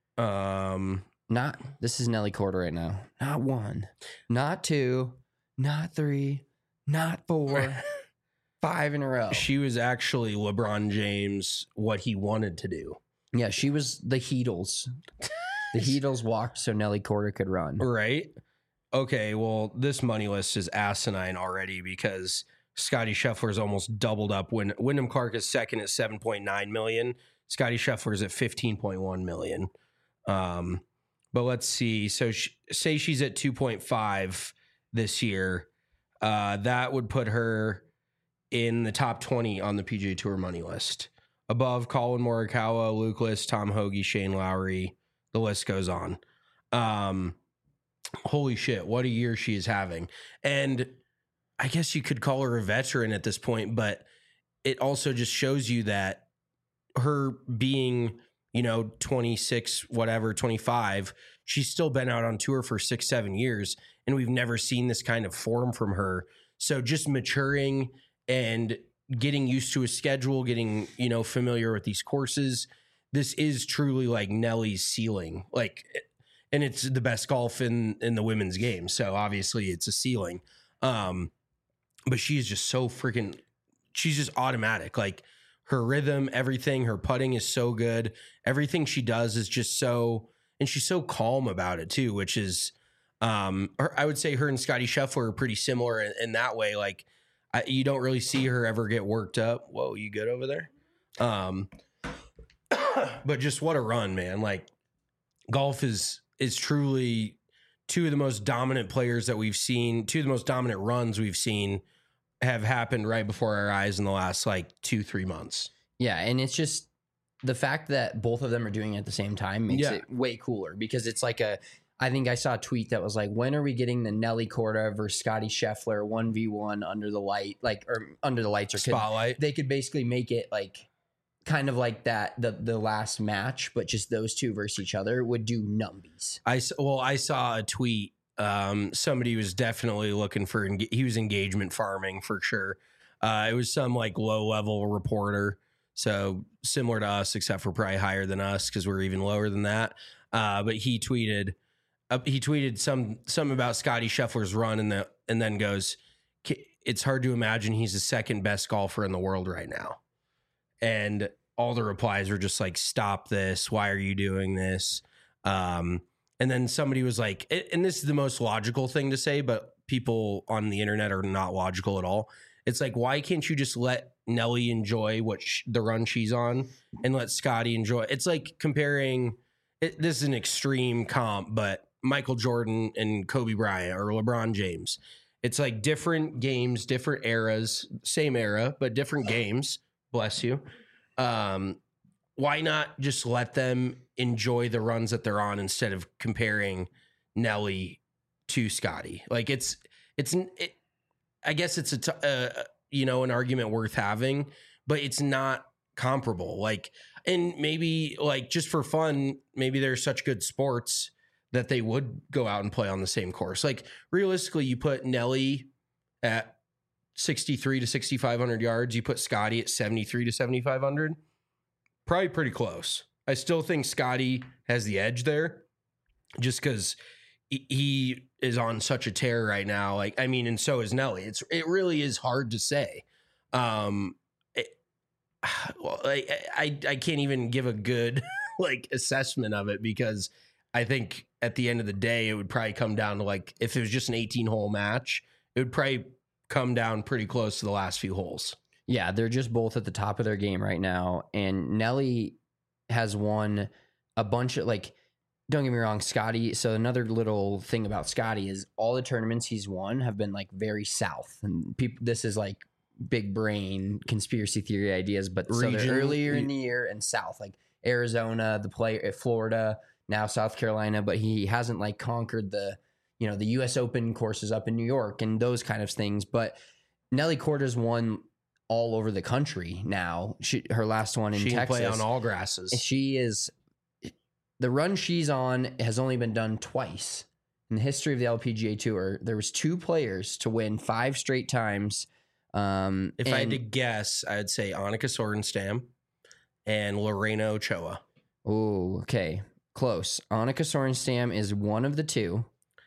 Um, Not, this is Nelly Korda right now. Not one, not two, not three, not four, five in a row. she was actually LeBron James, what he wanted to do. Yeah, she was the Heatles. The Heatles walked so Nelly Korda could run. Right. Okay, well, this money list is asinine already because Scotty Scheffler is almost doubled up. When Wyndham Clark is second at seven point nine million, Scotty Scheffler is at fifteen point one million. Um, but let's see. So sh- say she's at two point five this year. Uh, that would put her in the top twenty on the P G A Tour money list. Above Colin Morikawa, Luke List, Tom Hoagie, Shane Lowry. The list goes on. Um, holy shit, what a year she is having. And I guess you could call her a veteran at this point, but it also just shows you that her being, you know, twenty-six, whatever, twenty-five, she's still been out on tour for six, seven years, and we've never seen this kind of form from her. So just maturing and getting used to a schedule, getting, you know, familiar with these courses. This is truly like Nelly's ceiling. Like, and it's the best golf in, in the women's game. So obviously it's a ceiling. Um, but she's just so freaking, she's just automatic. Like her rhythm, everything, her putting is so good. Everything she does is just so, and she's so calm about it too, which is, um, her, I would say her and Scotty Scheffler are pretty similar in, in that way. Like I, you don't really see her ever get worked up. Whoa, you good over there? Um, but just what a run, man. Like golf is, is truly two of the most dominant players that we've seen, two of the most dominant runs we've seen have happened right before our eyes in the last like two, three months. Yeah. And it's just the fact that both of them are doing it at the same time makes Yeah. it way cooler because it's like a, I think I saw a tweet that was like, when are we getting the Nelly Korda versus Scotty Scheffler one v one under the light, like, or under the lights or could, Spotlight. they could basically make it like kind of like that, the, the last match, but just those two versus each other would do numbies. I, s- well, I saw a tweet. Um, somebody was definitely looking for, enga- he was engagement farming for sure. Uh, it was some like low level reporter. So similar to us, except for probably higher than us because we're even lower than that. Uh, but he tweeted, uh, he tweeted some, some about Scotty Scheffler's run and the, and then goes, it's hard to imagine he's the second best golfer in the world right now. And all the replies were just like, stop this. Why are you doing this? Um, and then somebody was like, and this is the most logical thing to say, but people on the internet are not logical at all. It's like, why can't you just let Nelly enjoy what sh- the run she's on and let Scotty enjoy? It's like comparing, it, this is an extreme comp, but Michael Jordan and Kobe Bryant or LeBron James. It's like different games, different eras, same era, but different games. Bless you. Um, why not just let them enjoy the runs that they're on instead of comparing Nelly to Scotty? Like it's, it's, it, I guess it's a, t- uh, you know, an argument worth having, but it's not comparable. Like, and maybe like just for fun, maybe they're such good sports that they would go out and play on the same course. Like realistically, you put Nelly at sixty-three to sixty-five hundred yards. You put Scotty at seventy-three to seventy-five hundred. Probably pretty close. I still think Scotty has the edge there just because he is on such a tear right now. Like, I mean, and so is Nelly. It's, it really is hard to say. Um, it, well, I, I, I can't even give a good like assessment of it because I think at the end of the day, it would probably come down to like, if it was just an eighteen hole match, it would probably come down pretty close to the last few holes. Yeah, they're just both at the top of their game right now. And Nelly has won a bunch of, like, don't get me wrong, Scotty. So another little thing about Scotty is all the tournaments he's won have been like very south. And people, this is like big brain conspiracy theory ideas, but so Region- they're earlier in the year and south, like Arizona, the play at Florida, now South Carolina, but he hasn't like conquered the, you know, the U S Open courses up in New York and those kind of things. But Nelly Korda's won all over the country now. She, her last one in She can Texas. play on all grasses. She is, the run she's on has only been done twice in the history of the L P G A Tour. There was two players to win five straight times. Um, If I had and- to guess, I'd say Annika Sorenstam and Lorena Ochoa. Oh, okay. Close. Annika Sorenstam is one of the two.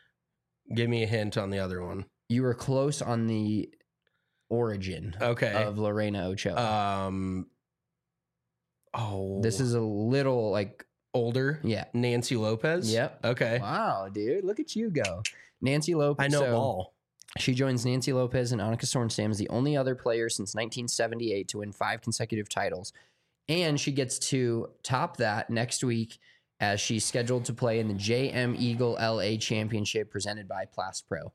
Give me a hint on the other one. You were close on the origin Okay. of Lorena Ochoa. Um. Oh, This is a little like Older? Yeah. Nancy Lopez? Yep. Okay. Wow, dude. Look at you go. Nancy Lopez. I know so all. She joins Nancy Lopez and Annika Sorenstam as the only other player since nineteen seventy-eight to win five consecutive titles. And she gets to top that next week as she's scheduled to play in the J M Eagle L A Championship presented by Plast Pro.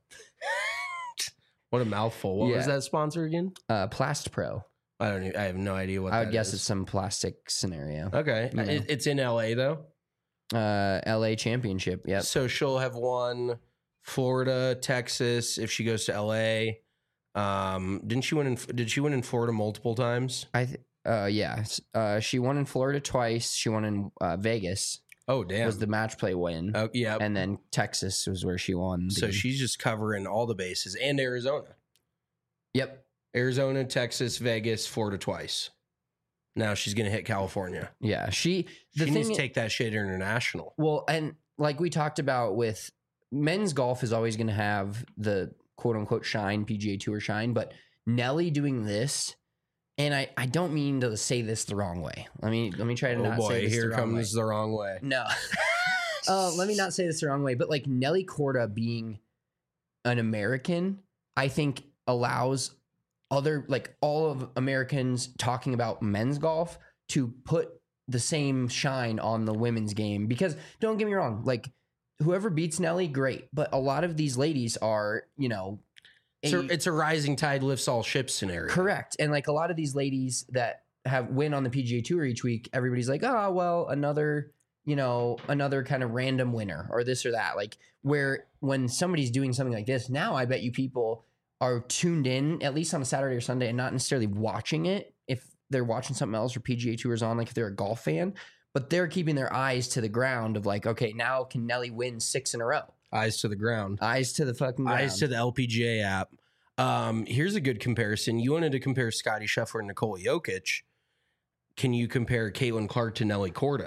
What a mouthful. What Yeah. was that sponsor again? Uh, Plast Pro. I don't even, I have no idea what I that would guess is. it's some plastic scenario. Okay. You know. It, it's in L A though. Uh, L A Championship. Yep. So she'll have won Florida, Texas if she goes to L A. Um, didn't she win in did she win in Florida multiple times? I th- uh yeah. Uh, she won in Florida twice. She won in uh, Vegas. Oh damn. Was the match play win. Oh yeah. And then Texas was where she won. So the- she's just covering all the bases and Arizona. Yep. Arizona, Texas, Vegas, Florida twice. Now she's going to hit California. Yeah. She the she thing needs to take that shit international. Well, and like we talked about with men's golf is always going to have the quote unquote shine, P G A Tour shine, but Nelly doing this, and I, I don't mean to say this the wrong way. Let me let me try to Oh not say boy, this here the wrong comes way. the wrong way. No. uh, let me not say this the wrong way, but like Nelly Korda being an American, I think allows other like all of Americans talking about men's golf to put the same shine on the women's game. Because don't get me wrong, like whoever beats Nelly, great. But a lot of these ladies are, you know, It's a, it's a rising tide lifts all ships scenario. correct. And like a lot of these ladies that have win on the P G A Tour each week, everybody's like, oh, well, another, you know, another kind of random winner or this or that. Like where when somebody's doing something like this, now I bet you people are tuned in at least on a Saturday or Sunday and not necessarily watching it if they're watching something else or P G A Tours on, like if they're a golf fan, but they're keeping their eyes to the ground of like, okay, now can Nelly win six in a row? Eyes to the ground. Eyes to the fucking ground. Eyes to the L P G A app. Um, here's a good comparison. You wanted to compare Scotty Scheffler and Nikola Jokic. Can you compare Caitlin Clark to Nelly Korda?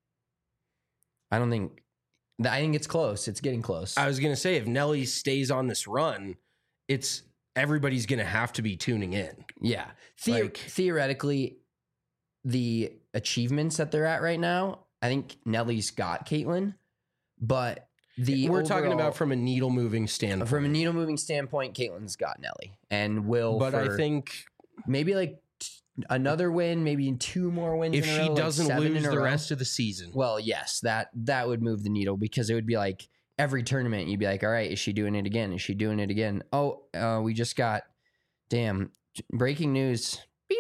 I don't think, I think it's close. It's getting close. I was going to say, if Nelly stays on this run, it's everybody's going to have to be tuning in. Yeah. The- Like- theoretically, the achievements that they're at right now, I think Nelly's got Caitlin, but the We're talking overall- about from a needle moving standpoint. from a needle moving standpoint, Caitlin's got Nelly and will. but I for think maybe like t- another win, maybe two more wins. if in a she row, like doesn't seven lose in a the row. rest of the season, Well, yes, that that would move the needle because it would be like every tournament you'd be like, all right, is she doing it again? Is she doing it again? Oh, uh, we just got, damn, breaking news.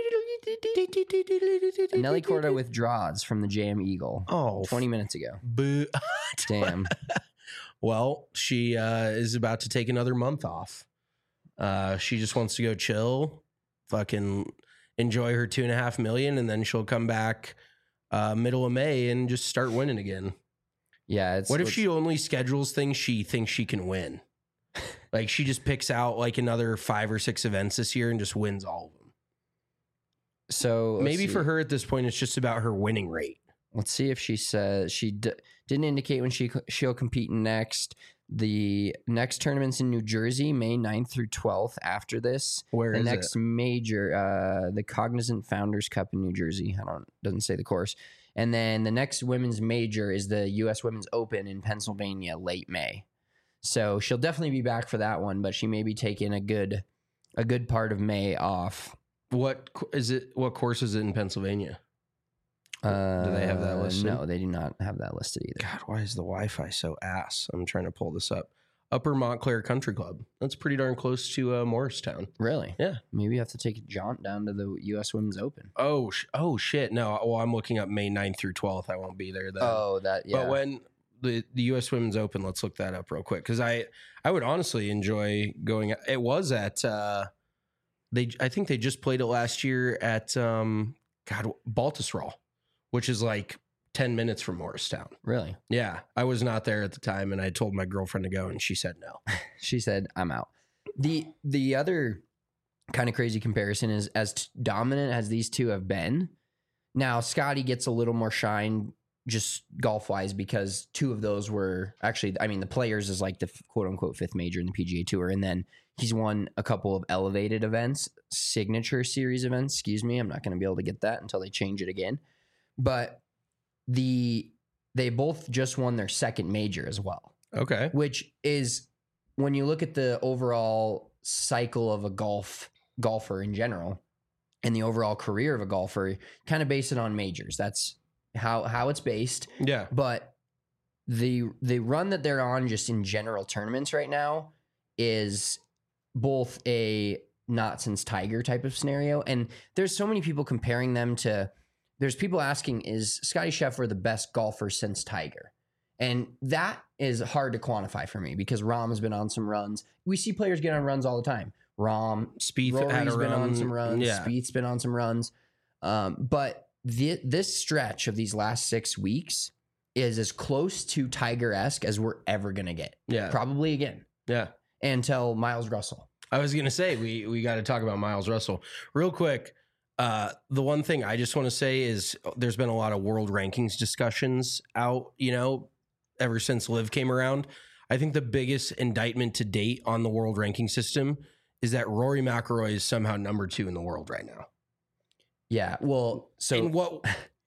Nelly Korda withdraws from the J M Eagle oh, twenty minutes ago. boo. Damn. Well, she uh, is about to take another month off. Uh, she just wants to go chill, fucking enjoy her two and a half million, and then she'll come back uh, middle of May and just start winning again. Yeah. It's, What if it's- she only schedules things she thinks she can win? Like she just picks out like another five or six events this year and just wins all of them. So let's Maybe see. for her at this point, it's just about her winning rate. Let's see if she says she d- didn't indicate when she she'll compete next. The next tournament's in New Jersey, May ninth through twelfth. After this, Where the is next it? major, uh, the Cognizant Founders Cup in New Jersey. I don't doesn't say the course. And then the next women's major is the U S Women's Open in Pennsylvania, late May. So she'll definitely be back for that one, but she may be taking a good a good part of May off. What co- is it? What course is it in Pennsylvania? Uh, Do they have that listed? No, they do not have that listed either. God, why is the Wi-Fi so ass? I'm trying to pull this up. Upper Montclair Country Club. That's pretty darn close to uh, Morristown. Really? Yeah. Maybe you have to take a jaunt down to the U S Women's Open. Oh, sh- oh shit. No, well, I'm looking up May ninth through twelfth. I won't be there then. Oh, that yeah. But when the, the U S Women's Open, let's look that up real quick because I I would honestly enjoy going. It was at uh, they. I think they just played it last year at um, God Baltusrol, which is like ten minutes from Morristown. Really? Yeah, I was not there at the time, and I told my girlfriend to go, and she said no. She said, "I'm out." The the other kind of crazy comparison is as t- dominant as these two have been. Now Scotty gets a little more shine just golf wise because two of those were actually, I mean, the Players is like the quote unquote fifth major in the P G A Tour, and then he's won a couple of elevated events, signature series events. Excuse me, I'm not going to be able to get that until they change it again. But the they both just won their second major as well. Okay. Which is, when you look at the overall cycle of a golf golfer in general and the overall career of a golfer, kind of base it on majors. That's how how it's based. Yeah. But the the run that they're on just in general tournaments right now is both a not since Tiger type of scenario. And there's so many people comparing them to, there's people asking, is Scottie Scheffler the best golfer since Tiger? And that is hard to quantify for me because Rahm has been on some runs. We see players get on runs all the time. Rahm, Spieth Rory's had a been run. on some runs. Yeah. Spieth's been on some runs. Um, but the, this stretch of these last six weeks is as close to Tiger-esque as we're ever going to get. Yeah. Probably again. Yeah. Until Miles Russell. I was gonna say we we got to talk about Miles Russell real quick. Uh, the one thing I just want to say is there's been a lot of world rankings discussions out, you know, ever since Liv came around. I think the biggest indictment to date on the world ranking system is that Rory McIlroy is somehow number two in the world right now. Yeah. Well, so in what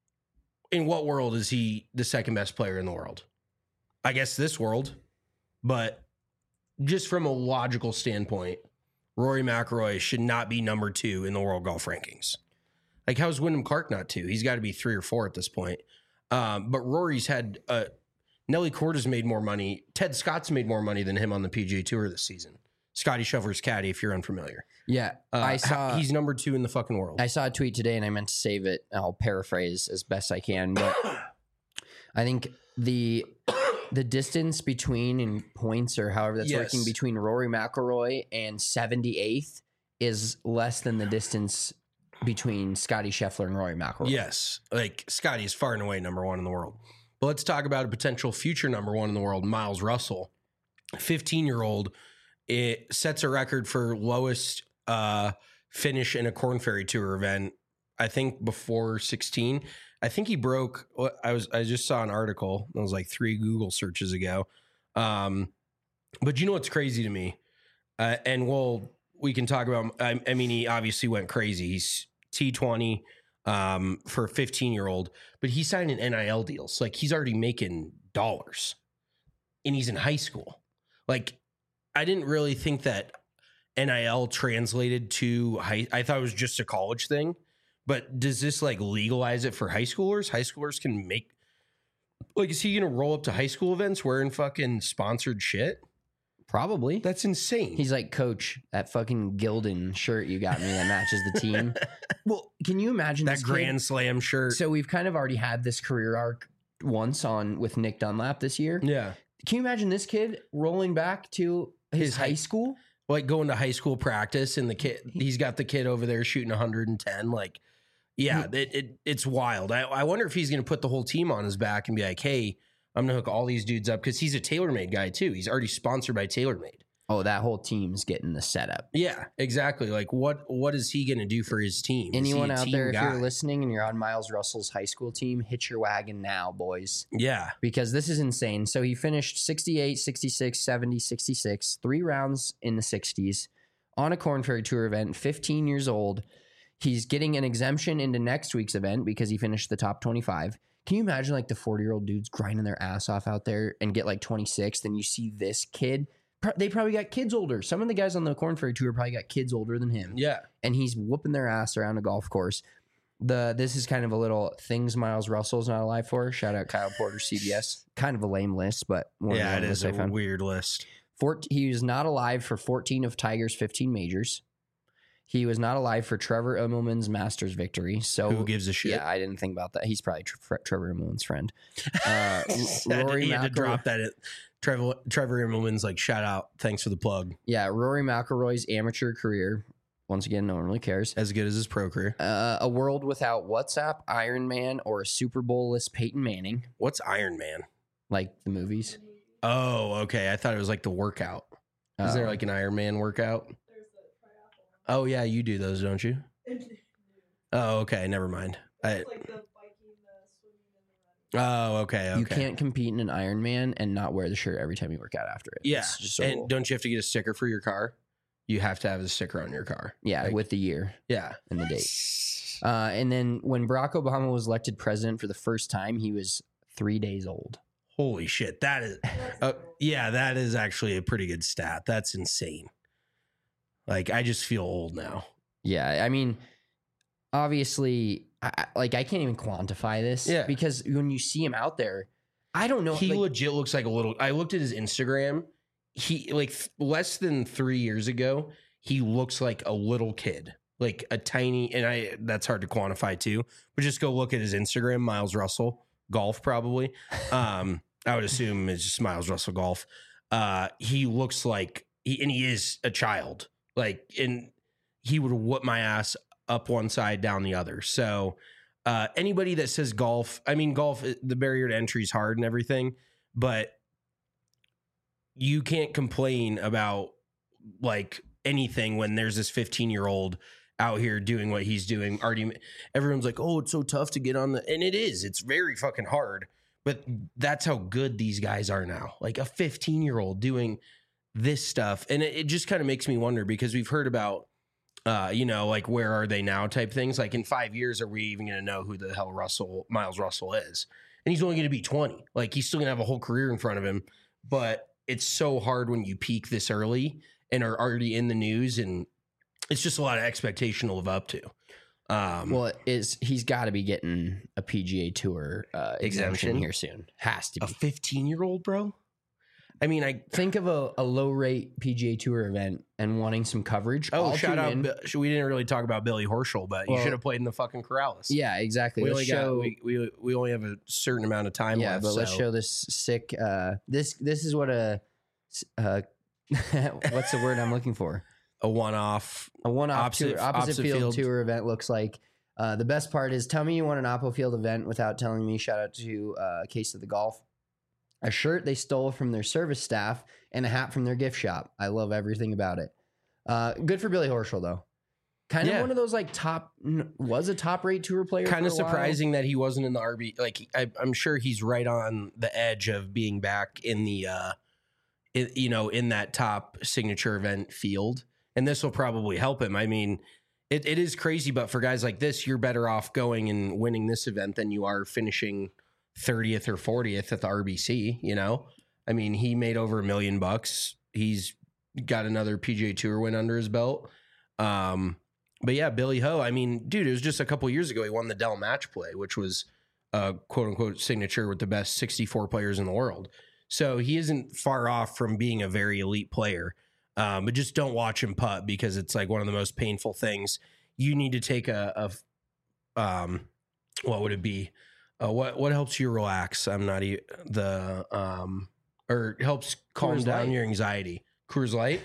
in what world is he the second best player in the world? I guess this world, but just from a logical standpoint, Rory McIlroy should not be number two in the world golf rankings. Like, how's Wyndham Clark not two? He's got to be three or four at this point. Um, but Rory's had uh, Nelly Corda's made more money. Ted Scott's made more money than him on the P G A Tour this season. Scottie Scheffler's caddy, if you're unfamiliar. Yeah, Uh, I saw. he's number two in the fucking world. I saw a tweet today, and I meant to save it. I'll paraphrase as best I can, but I think the the distance between in points or however that's Yes. working between Rory McIlroy and seventy-eighth is less than the distance between Scottie Scheffler and Rory McIlroy. Yes, like Scottie is far and away number one in the world. But let's talk about a potential future number one in the world, Miles Russell, fifteen-year-old. It sets a record for lowest uh, finish in a Korn Ferry Tour event. I think before sixteen. I think he broke. I was. I just saw an article. It was like three Google searches ago. Um, but you know what's crazy to me? Uh, and we'll we can talk about. I, I mean, he obviously went crazy. He's T twenty um, for a fifteen year old, but he signed an N I L deal. So like he's already making dollars, and he's in high school. Like I didn't really think that N I L translated to high. I thought it was just a college thing. But does this like legalize it for high schoolers? High schoolers can make, like, is he going to roll up to high school events wearing fucking sponsored shit? Probably. That's insane. He's like, Coach, that fucking Gildan shirt you got me that matches the team. Well, can you imagine that this Grand kid? Slam shirt. So we've kind of already had this career arc once on with Nick Dunlap this year. Yeah. Can you imagine this kid rolling back to his, His high high- school? Like going to high school practice and the kid, he's got the kid over there shooting one hundred ten. Like, yeah, it, it it's wild. I, I wonder if he's going to put the whole team on his back and be like, hey, I'm going to hook all these dudes up because he's a TaylorMade guy too. He's already sponsored by TaylorMade. Oh, that whole team's getting the setup. Yeah, exactly. Like, what what is he going to do for his team? Is he Anyone a out team there, if guy? you're listening and you're on Miles Russell's high school team, hit your wagon now, boys. Yeah. Because this is insane. So he finished sixty-eight, sixty-six, seventy, sixty-six, three rounds in the sixties on a Korn Ferry Tour event, fifteen years old. He's getting an exemption into next week's event because he finished the top twenty-five. Can you imagine like the forty-year-old dudes grinding their ass off out there and get like twenty-six? Then you see this kid. Pro- They probably got kids older. Some of the guys on the Korn Ferry Tour probably got kids older than him. Yeah. And he's whooping their ass around a golf course. The This is kind of a little things Miles Russell's not alive for. Shout out Kyle Porter, C B S. Kind of a lame list, but one Yeah, of it the is lists a I found. weird list. fourteen He was not alive for fourteen of Tiger's fifteen majors. He was not alive for Trevor Immelman's Masters victory. So Who gives a shit? Yeah, I didn't think about that. He's probably Tre- Trevor Immelman's friend. Uh, Rory Rory he had to McIlroy- drop that. At, Trevor Trevor Immelman's like, shout out, thanks for the plug. Yeah, Rory McIlroy's amateur career. Once again, no one really cares. As good as his pro career. Uh, a world without WhatsApp, Iron Man, or a Super Bowl-less Peyton Manning, What's Iron Man? like the movies. Oh, okay. I thought it was like the workout. Is there Uh, like an Iron Man workout? Oh yeah, you do those, don't you? Oh, okay. Never mind. I, oh, okay. Okay. You can't compete in an Iron Man and not wear the shirt every time you work out after it. Yeah. It's just a And rule. don't you have to get a sticker for your car? You have to have a sticker on your car. yeah, like- with the year Yeah. and the date. Uh, and then when Barack Obama was elected president for the first time, he was three days old. Holy shit. That is, uh, yeah, that is actually a pretty good stat. That's insane. Like, I just feel old now. Yeah. I mean, obviously, I, I- like, I can't even quantify this Yeah. because when you see him out there, I don't know. He like, legit looks like a little, I looked at his Instagram. He, like, th- less than three years ago, he looks like a little kid. Like a tiny, and I that's hard to quantify too, but just go look at his Instagram, Miles Russell, golf probably. Um, I would assume it's just Miles Russell golf. Uh, he looks like, he, and he is a child. Like, and he would whoop my ass up one side, down the other. So uh, anybody that says golf, I mean, golf, the barrier to entry is hard and everything, but you can't complain about like anything when there's this fifteen year old out here doing what he's doing. Already, everyone's like, oh, it's so tough to get on the, and it is, it's very fucking hard, but that's how good these guys are now. Like a fifteen year old doing this stuff. And it, it just kind of makes me wonder because we've heard about, uh, you know, like where are they now type things. Like in five years, are we even going to know who the hell Russell, Miles Russell is? And he's only going to be twenty. Like he's still going to have a whole career in front of him, but it's so hard when you peak this early and are already in the news, and it's just a lot of expectation to live up to. Um, well, is he's got to be getting a P G A Tour uh, exemption Exemption? here soon. Has to a be. fifteen year old, bro. I mean, I Think of a, a low rate P G A Tour event and wanting some coverage. oh I'll shout tune out. in. Bi- We didn't really talk about Billy Horschel, but you Well- should have played in the fucking Corrales. Yeah, exactly. we Let's only show. got we, we we only have a certain amount of time yeah, left. but let's so- show this sick. Uh, this this is what a uh, what's the word I'm looking for? a one off. A one off Opposite- tour, opposite, opposite field, field. tour event looks like. Uh, the best part is tell me you want an Oppo Field event without telling me. Shout out to uh, Case of the Golf. A shirt they stole from their service staff and a hat from their gift shop. I love everything about it. Uh, good for Billy Horschel though. Kind of Yeah. one of those like top n- was a top rate tour player. Kind of for a while. surprising that he wasn't in the R B. Like I, I'm sure he's right on the edge of being back in the, uh, in, you know, in that top signature event field, and this will probably help him. I mean, it, it is crazy, but for guys like this, you're better off going and winning this event than you are finishing thirtieth or fortieth at the R B C. You know, I mean, he made over a million bucks. He's got another P G A Tour win under his belt. Um, But yeah, Billy Ho, I mean, dude, it was just a couple years ago he won the Dell Match Play, which was a quote unquote signature with the best sixty-four players in the world. So he isn't far off from being a very elite player. Um, but just don't watch him putt because it's like one of the most painful things. You need to take a, a um, what would it be? Uh, what what helps you relax? I'm not e- the um, or helps calm Coors down Light. your anxiety. Coors Light.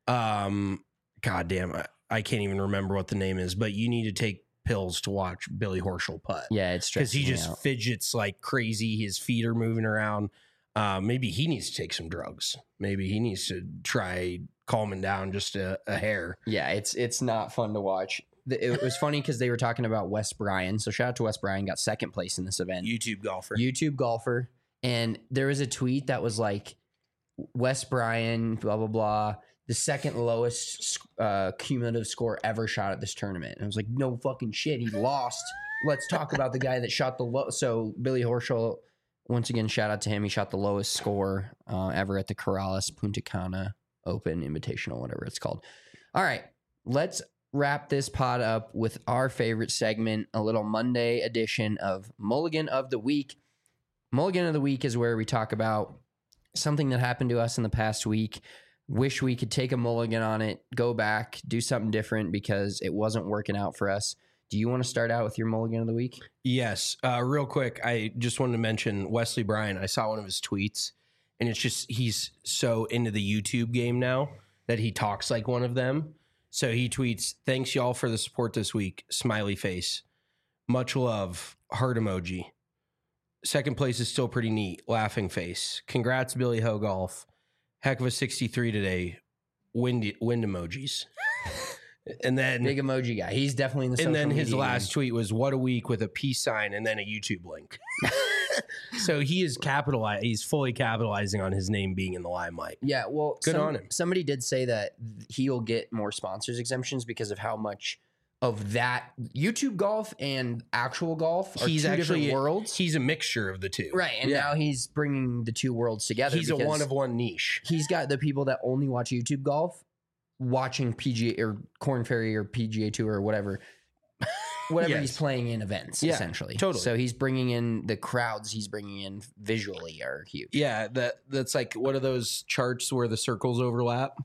Um, God damn it. I can't even remember what the name is, but you need to take pills to watch Billy Horschel putt. Yeah, it's Because he stresses me just out. fidgets like crazy. His feet are moving around. Uh, maybe he needs to take some drugs. Maybe he needs to try calming down just a, a hair. Yeah, it's it's not fun to watch. The- It was funny because they were talking about Wes Bryan. So shout out to Wes Bryan, got second place in this event. YouTube golfer. YouTube golfer. And there was a tweet that was like, Wes Bryan, blah, blah, blah, the second lowest uh, cumulative score ever shot at this tournament. And I was like, no fucking shit. He lost. Let's talk about the guy that shot the low. So Billy Horschel, once again, shout out to him. He shot the lowest score uh, ever at the Corrales Punta Cana Open Invitational, whatever it's called. All right, let's wrap this pod up with our favorite segment, a little Monday edition of Mulligan of the Week. Mulligan of the Week is where we talk about something that happened to us in the past week. Wish we could take a mulligan on it, go back, do something different because it wasn't working out for us. Do you want to start out with your mulligan of the week? Yes. Uh, real quick, I just wanted to mention Wesley Bryan. I saw one of his tweets, and it's just he's so into the YouTube game now that he talks like one of them. So he tweets, "Thanks y'all for the support this week. Smiley face. Much love. Heart emoji. Second place is still pretty neat. Laughing face. Congrats, Billy Ho Golf. Heck of a sixty-three today. Wind, wind emojis." And then Big emoji guy. He's definitely in the social and then his media last game. tweet was "What a week" with a peace sign and then a YouTube link. So he is capitalized. He's fully capitalizing on his name being in the limelight. Yeah, well, Good some- on him. Somebody did say that he'll get more sponsors exemptions because of how much of that YouTube golf and actual golf are He's two actually different worlds. He's a mixture of the two. Right. And Yeah. now he's bringing the two worlds together. He's a because one of one niche. He's got the people that only watch YouTube golf watching P G A or Corn Ferry or P G A Tour or whatever. Whatever Yes. he's playing in events, Yeah, essentially. totally. So he's bringing in the crowds he's bringing in visually are huge. Yeah, that that's like what are those charts where the circles overlap?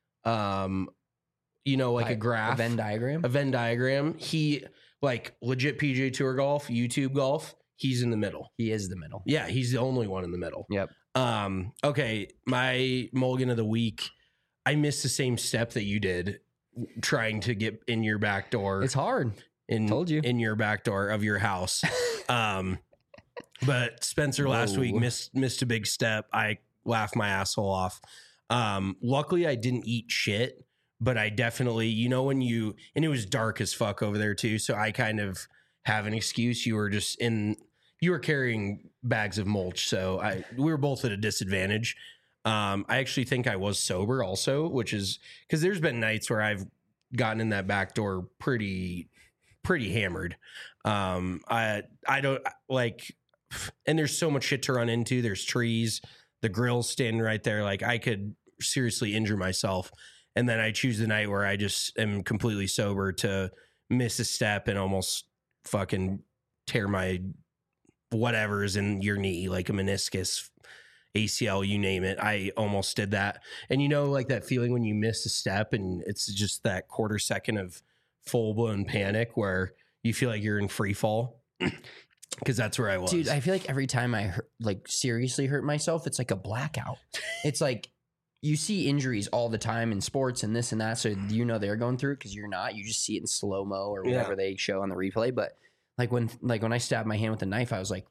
Um, you know, like I- a graph, a Venn diagram. a Venn diagram. He like legit P G A Tour golf, YouTube golf. He's in the middle. He is the middle. Yeah, he's the only one in the middle. Yep. Um, okay, my mulligan of the week. I missed the same step that you did, trying to get in your back door. It's hard. in Told you. in your back door of your house. um, but Spencer last Whoa. week missed missed a big step. I laughed my asshole off. Um, luckily I didn't eat shit, but I definitely, you know, when you and it was dark as fuck over there too. So I kind of have an excuse. You were just in. You were carrying bags of mulch, so I we were both at a disadvantage. Um, I actually think I was sober also, which is because there's been nights where I've gotten in that back door pretty pretty hammered. Um, I I don't like, and there's so much shit to run into. There's trees, the grill's standing right there. Like I could seriously injure myself. And then I choose the night where I just am completely sober to miss a step and almost fucking tear my whatever's in your knee, like a meniscus, A C L, you name it. I almost did that. And you know, like that feeling when you miss a step and it's just that quarter second of full blown panic where you feel like you're in free fall. Cause that's where I was. Dude, I feel like every time I hurt, like seriously hurt myself, it's like a blackout. It's like you see injuries all the time in sports and this and that. So you know they're going through it because you're not. You just see it in slow mo or whatever Yeah. they show on the replay. But like when like when I stabbed my hand with a knife, I was like,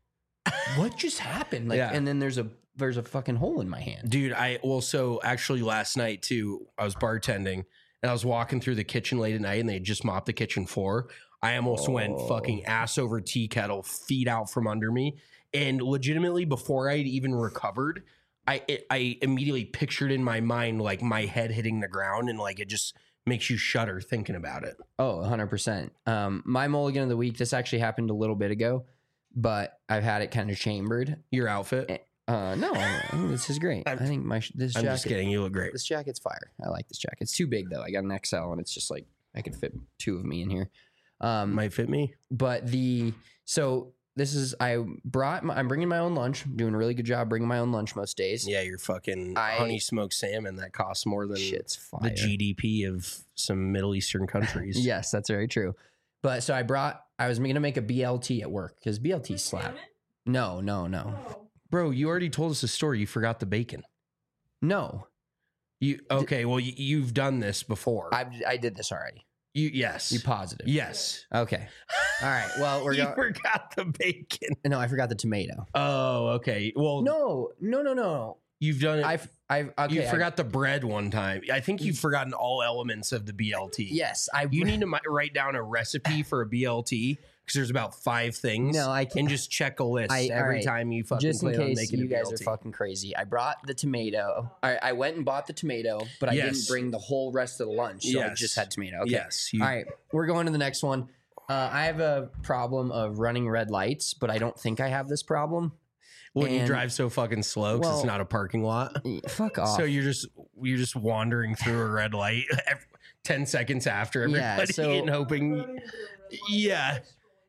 what just happened? Like, Yeah. and then there's a there's a fucking hole in my hand. Dude, I well, so actually last night too, I was bartending and I was walking through the kitchen late at night and they had just mopped the kitchen floor. I almost went Oh. fucking ass over tea kettle, feet out from under me. And legitimately, before I'd even recovered, I it, I immediately pictured in my mind like my head hitting the ground and like it just makes you shudder thinking about it. Oh, one hundred percent. Um, my mulligan of the week, this actually happened a little bit ago, but I've had it kind of chambered. Your outfit? Uh, no, I think this is great. I I'm- think my sh- this I'm jacket. just kidding. You look great. This jacket's fire. I like this jacket. It's too big though. I got an X L and it's just like I could fit two of me in here. Um, Might fit me. but the so this is I brought my, I'm bringing my own lunch. I'm doing a really good job bringing my own lunch most days. Yeah, you're fucking I- honey smoked salmon that costs more than Shit's fire. the G D P of some Middle Eastern countries. Yes, that's very true. But so I brought I was gonna make a B L T at work because B L T slap. No, no, no, Bro, you already told us the story. You forgot the bacon. no. You okay? Well, you, you've done this before. I I did this already. you yes. You positive? yes. Okay. All right. Well, we're you going. forgot the bacon. No, I forgot the tomato. Oh, okay. Well, No, no, no, no. you've done it. I've I've okay. you I- forgot the bread one time. I think you've forgotten all elements of the B L T. yes, I. You need to mi- write down a recipe for a B L T because there's about five things. No, I can't. And just check a list I- all every right. time you fucking just in plan on case making you a guys B L are T. fucking crazy. I brought the tomato. I, I went and bought the tomato, but I Yes. didn't bring the whole rest of the lunch. So I Yes. just had tomato. Okay. Yes. You, All right. We're going to the next one. Uh, I have a problem of running red lights, but I don't think I have this problem. When you and- drive so fucking slow because Well- it's not a parking lot. Eh, Fuck off. So you're just you're just wandering through a red light ev- ten seconds after Yeah, everybody so- and hoping. Yeah.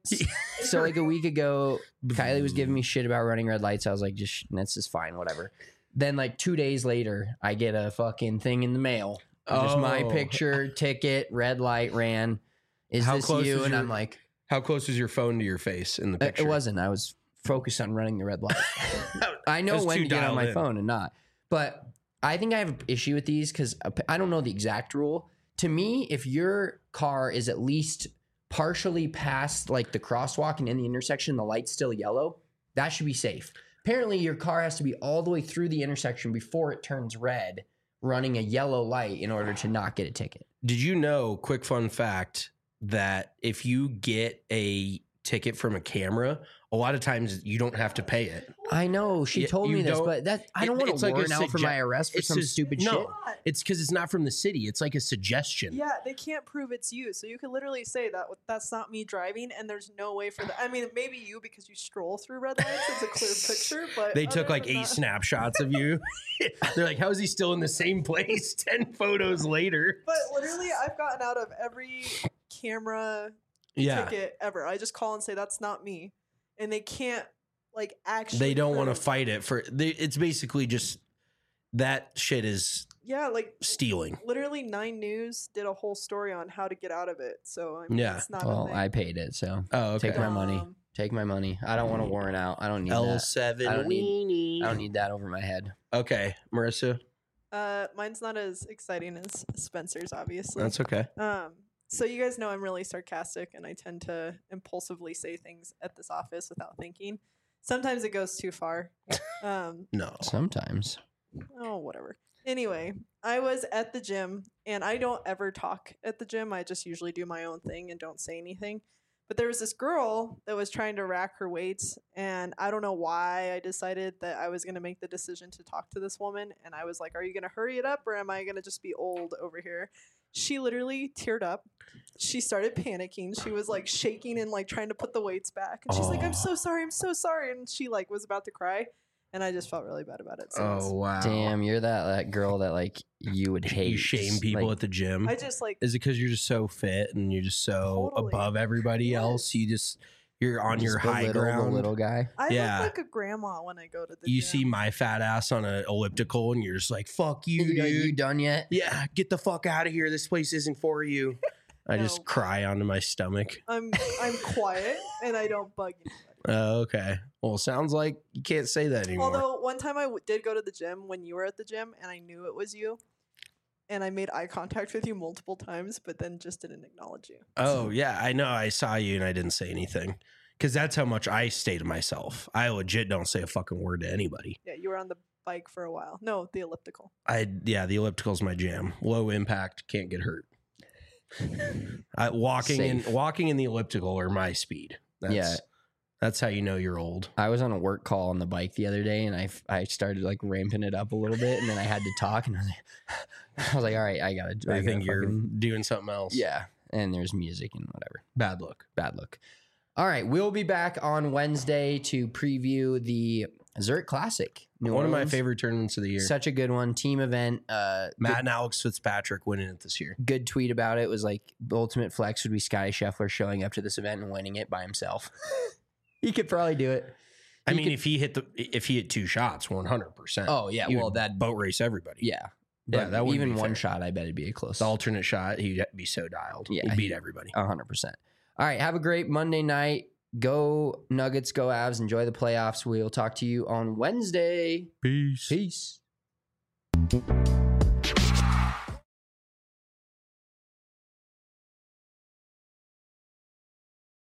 so like a week ago, Kylie was giving me shit about running red lights. I was like, just that's just fine, whatever. Then like two days later, I get a fucking thing in the mail. Just my Oh. picture, ticket, red light ran. Is How this close you? is And your- I'm like, How close is your phone to your face in the Uh, picture? it wasn't. I was focused on running the red light. I know That's when too to get on dialed my in. phone and not. But I think I have an issue with these because I don't know the exact rule. To me, if your car is at least partially past like the crosswalk and in the intersection, the light's still yellow, that should be safe. Apparently, your car has to be all the way through the intersection before it turns red, running a yellow light in order to not get a ticket. Did you know, quick fun fact, that if you get a ticket from a camera, a lot of times you don't have to pay it. I know she Yeah, told you me this, don't- but that I it- don't want it's to like a warrant out for sugge- my arrest for it's some just- stupid no. shit. It's because it's not from the city. It's like a suggestion. Yeah, they can't prove it's you. So you could literally say that that's not me driving, and there's no way for that. I mean, maybe you because you stroll through red lights. It's a clear picture, but They took other like than eight that- snapshots of you. They're like, how is he still in the same place ten photos later? But literally, I've gotten out of every camera Yeah. ticket ever. I just call and say that's not me, and they can't like actually. They don't want to prove- fight it for they, it's basically just that shit is Yeah, like stealing. literally Nine News did a whole story on how to get out of it. So I mean, Yeah. it's not. a Well, thing. I paid it, so Oh, okay. take my money. Um, Take my money. I don't want to warrant out. I don't need L that. seven I don't need- weenie. I don't need that over my head. Okay, Marissa, Uh, mine's not as exciting as Spencer's, obviously. that's okay. Um, so you guys know I'm really sarcastic, and I tend to impulsively say things at this office without thinking. Sometimes it goes too far. Um, No. Sometimes. oh, whatever. Anyway, I was at the gym, and I don't ever talk at the gym. I just usually do my own thing and don't say anything. But there was this girl that was trying to rack her weights, and I don't know why I decided that I was going to make the decision to talk to this woman. And I was like, are you going to hurry it up, or am I going to just be old over here? She literally teared up. She started panicking. She was like shaking and like trying to put the weights back. And she's like, I'm so sorry. I'm so sorry. And she like was about to cry. And I just felt really bad about it. So Oh wow. Damn, you're that, that girl that like you would hate. You shame people Like, at the gym. I just like, Is it because you're just so fit and you're just so Totally. above everybody Yes. else? You just you're on just your high belittle ground. the little guy. I Yeah. look like a grandma when I go to the You gym. see my fat ass on an elliptical, and you're just like, "Fuck you, You, dude." you done yet? Yeah, get the fuck out of here. This place isn't for you. I No. just cry onto my stomach. I'm I'm quiet and I don't bug anybody. Oh, okay. Well, sounds like you can't say that anymore. Although one time I w- did go to the gym when you were at the gym, and I knew it was you, and I made eye contact with you multiple times, but then just didn't acknowledge you. Oh, yeah. I know. I saw you and I didn't say anything because that's how much I stay to myself. I legit don't say a fucking word to anybody. Yeah, you were on the bike for a while. No, the elliptical. I, yeah, the elliptical's my jam. Low impact, can't get hurt. I, walking in, Safe. walking in the elliptical are my speed. That's, Yeah. That's how you know you're old. I was on a work call on the bike the other day, and I, f- I started like ramping it up a little bit, and then I had to talk, and I was like, I was like all right, I gotta. I, I think gotta you're fucking- doing something else. yeah. And there's music and whatever. Bad look. Bad look. All right, we'll be back on Wednesday to preview the Zurich Classic. New One of my Orleans. favorite tournaments of the year. Such a good one, team event. Uh, Matt and Alex Fitzpatrick winning it this year. good tweet about it was like the ultimate flex would be Scotty Scheffler showing up to this event and winning it by himself. He could probably do it. I He mean, could- if he hit the if he hit two shots, one hundred percent. Oh yeah, he well would that boat race everybody. yeah, Yeah, but that wouldn't even be one fair. shot, I bet it'd be a close. The alternate shot, he'd be so dialed. Yeah, he'd beat he- everybody. A hundred percent. All right, have a great Monday night. Go Nuggets, go Avs. Enjoy the playoffs. We'll talk to you on Wednesday. Peace. Peace.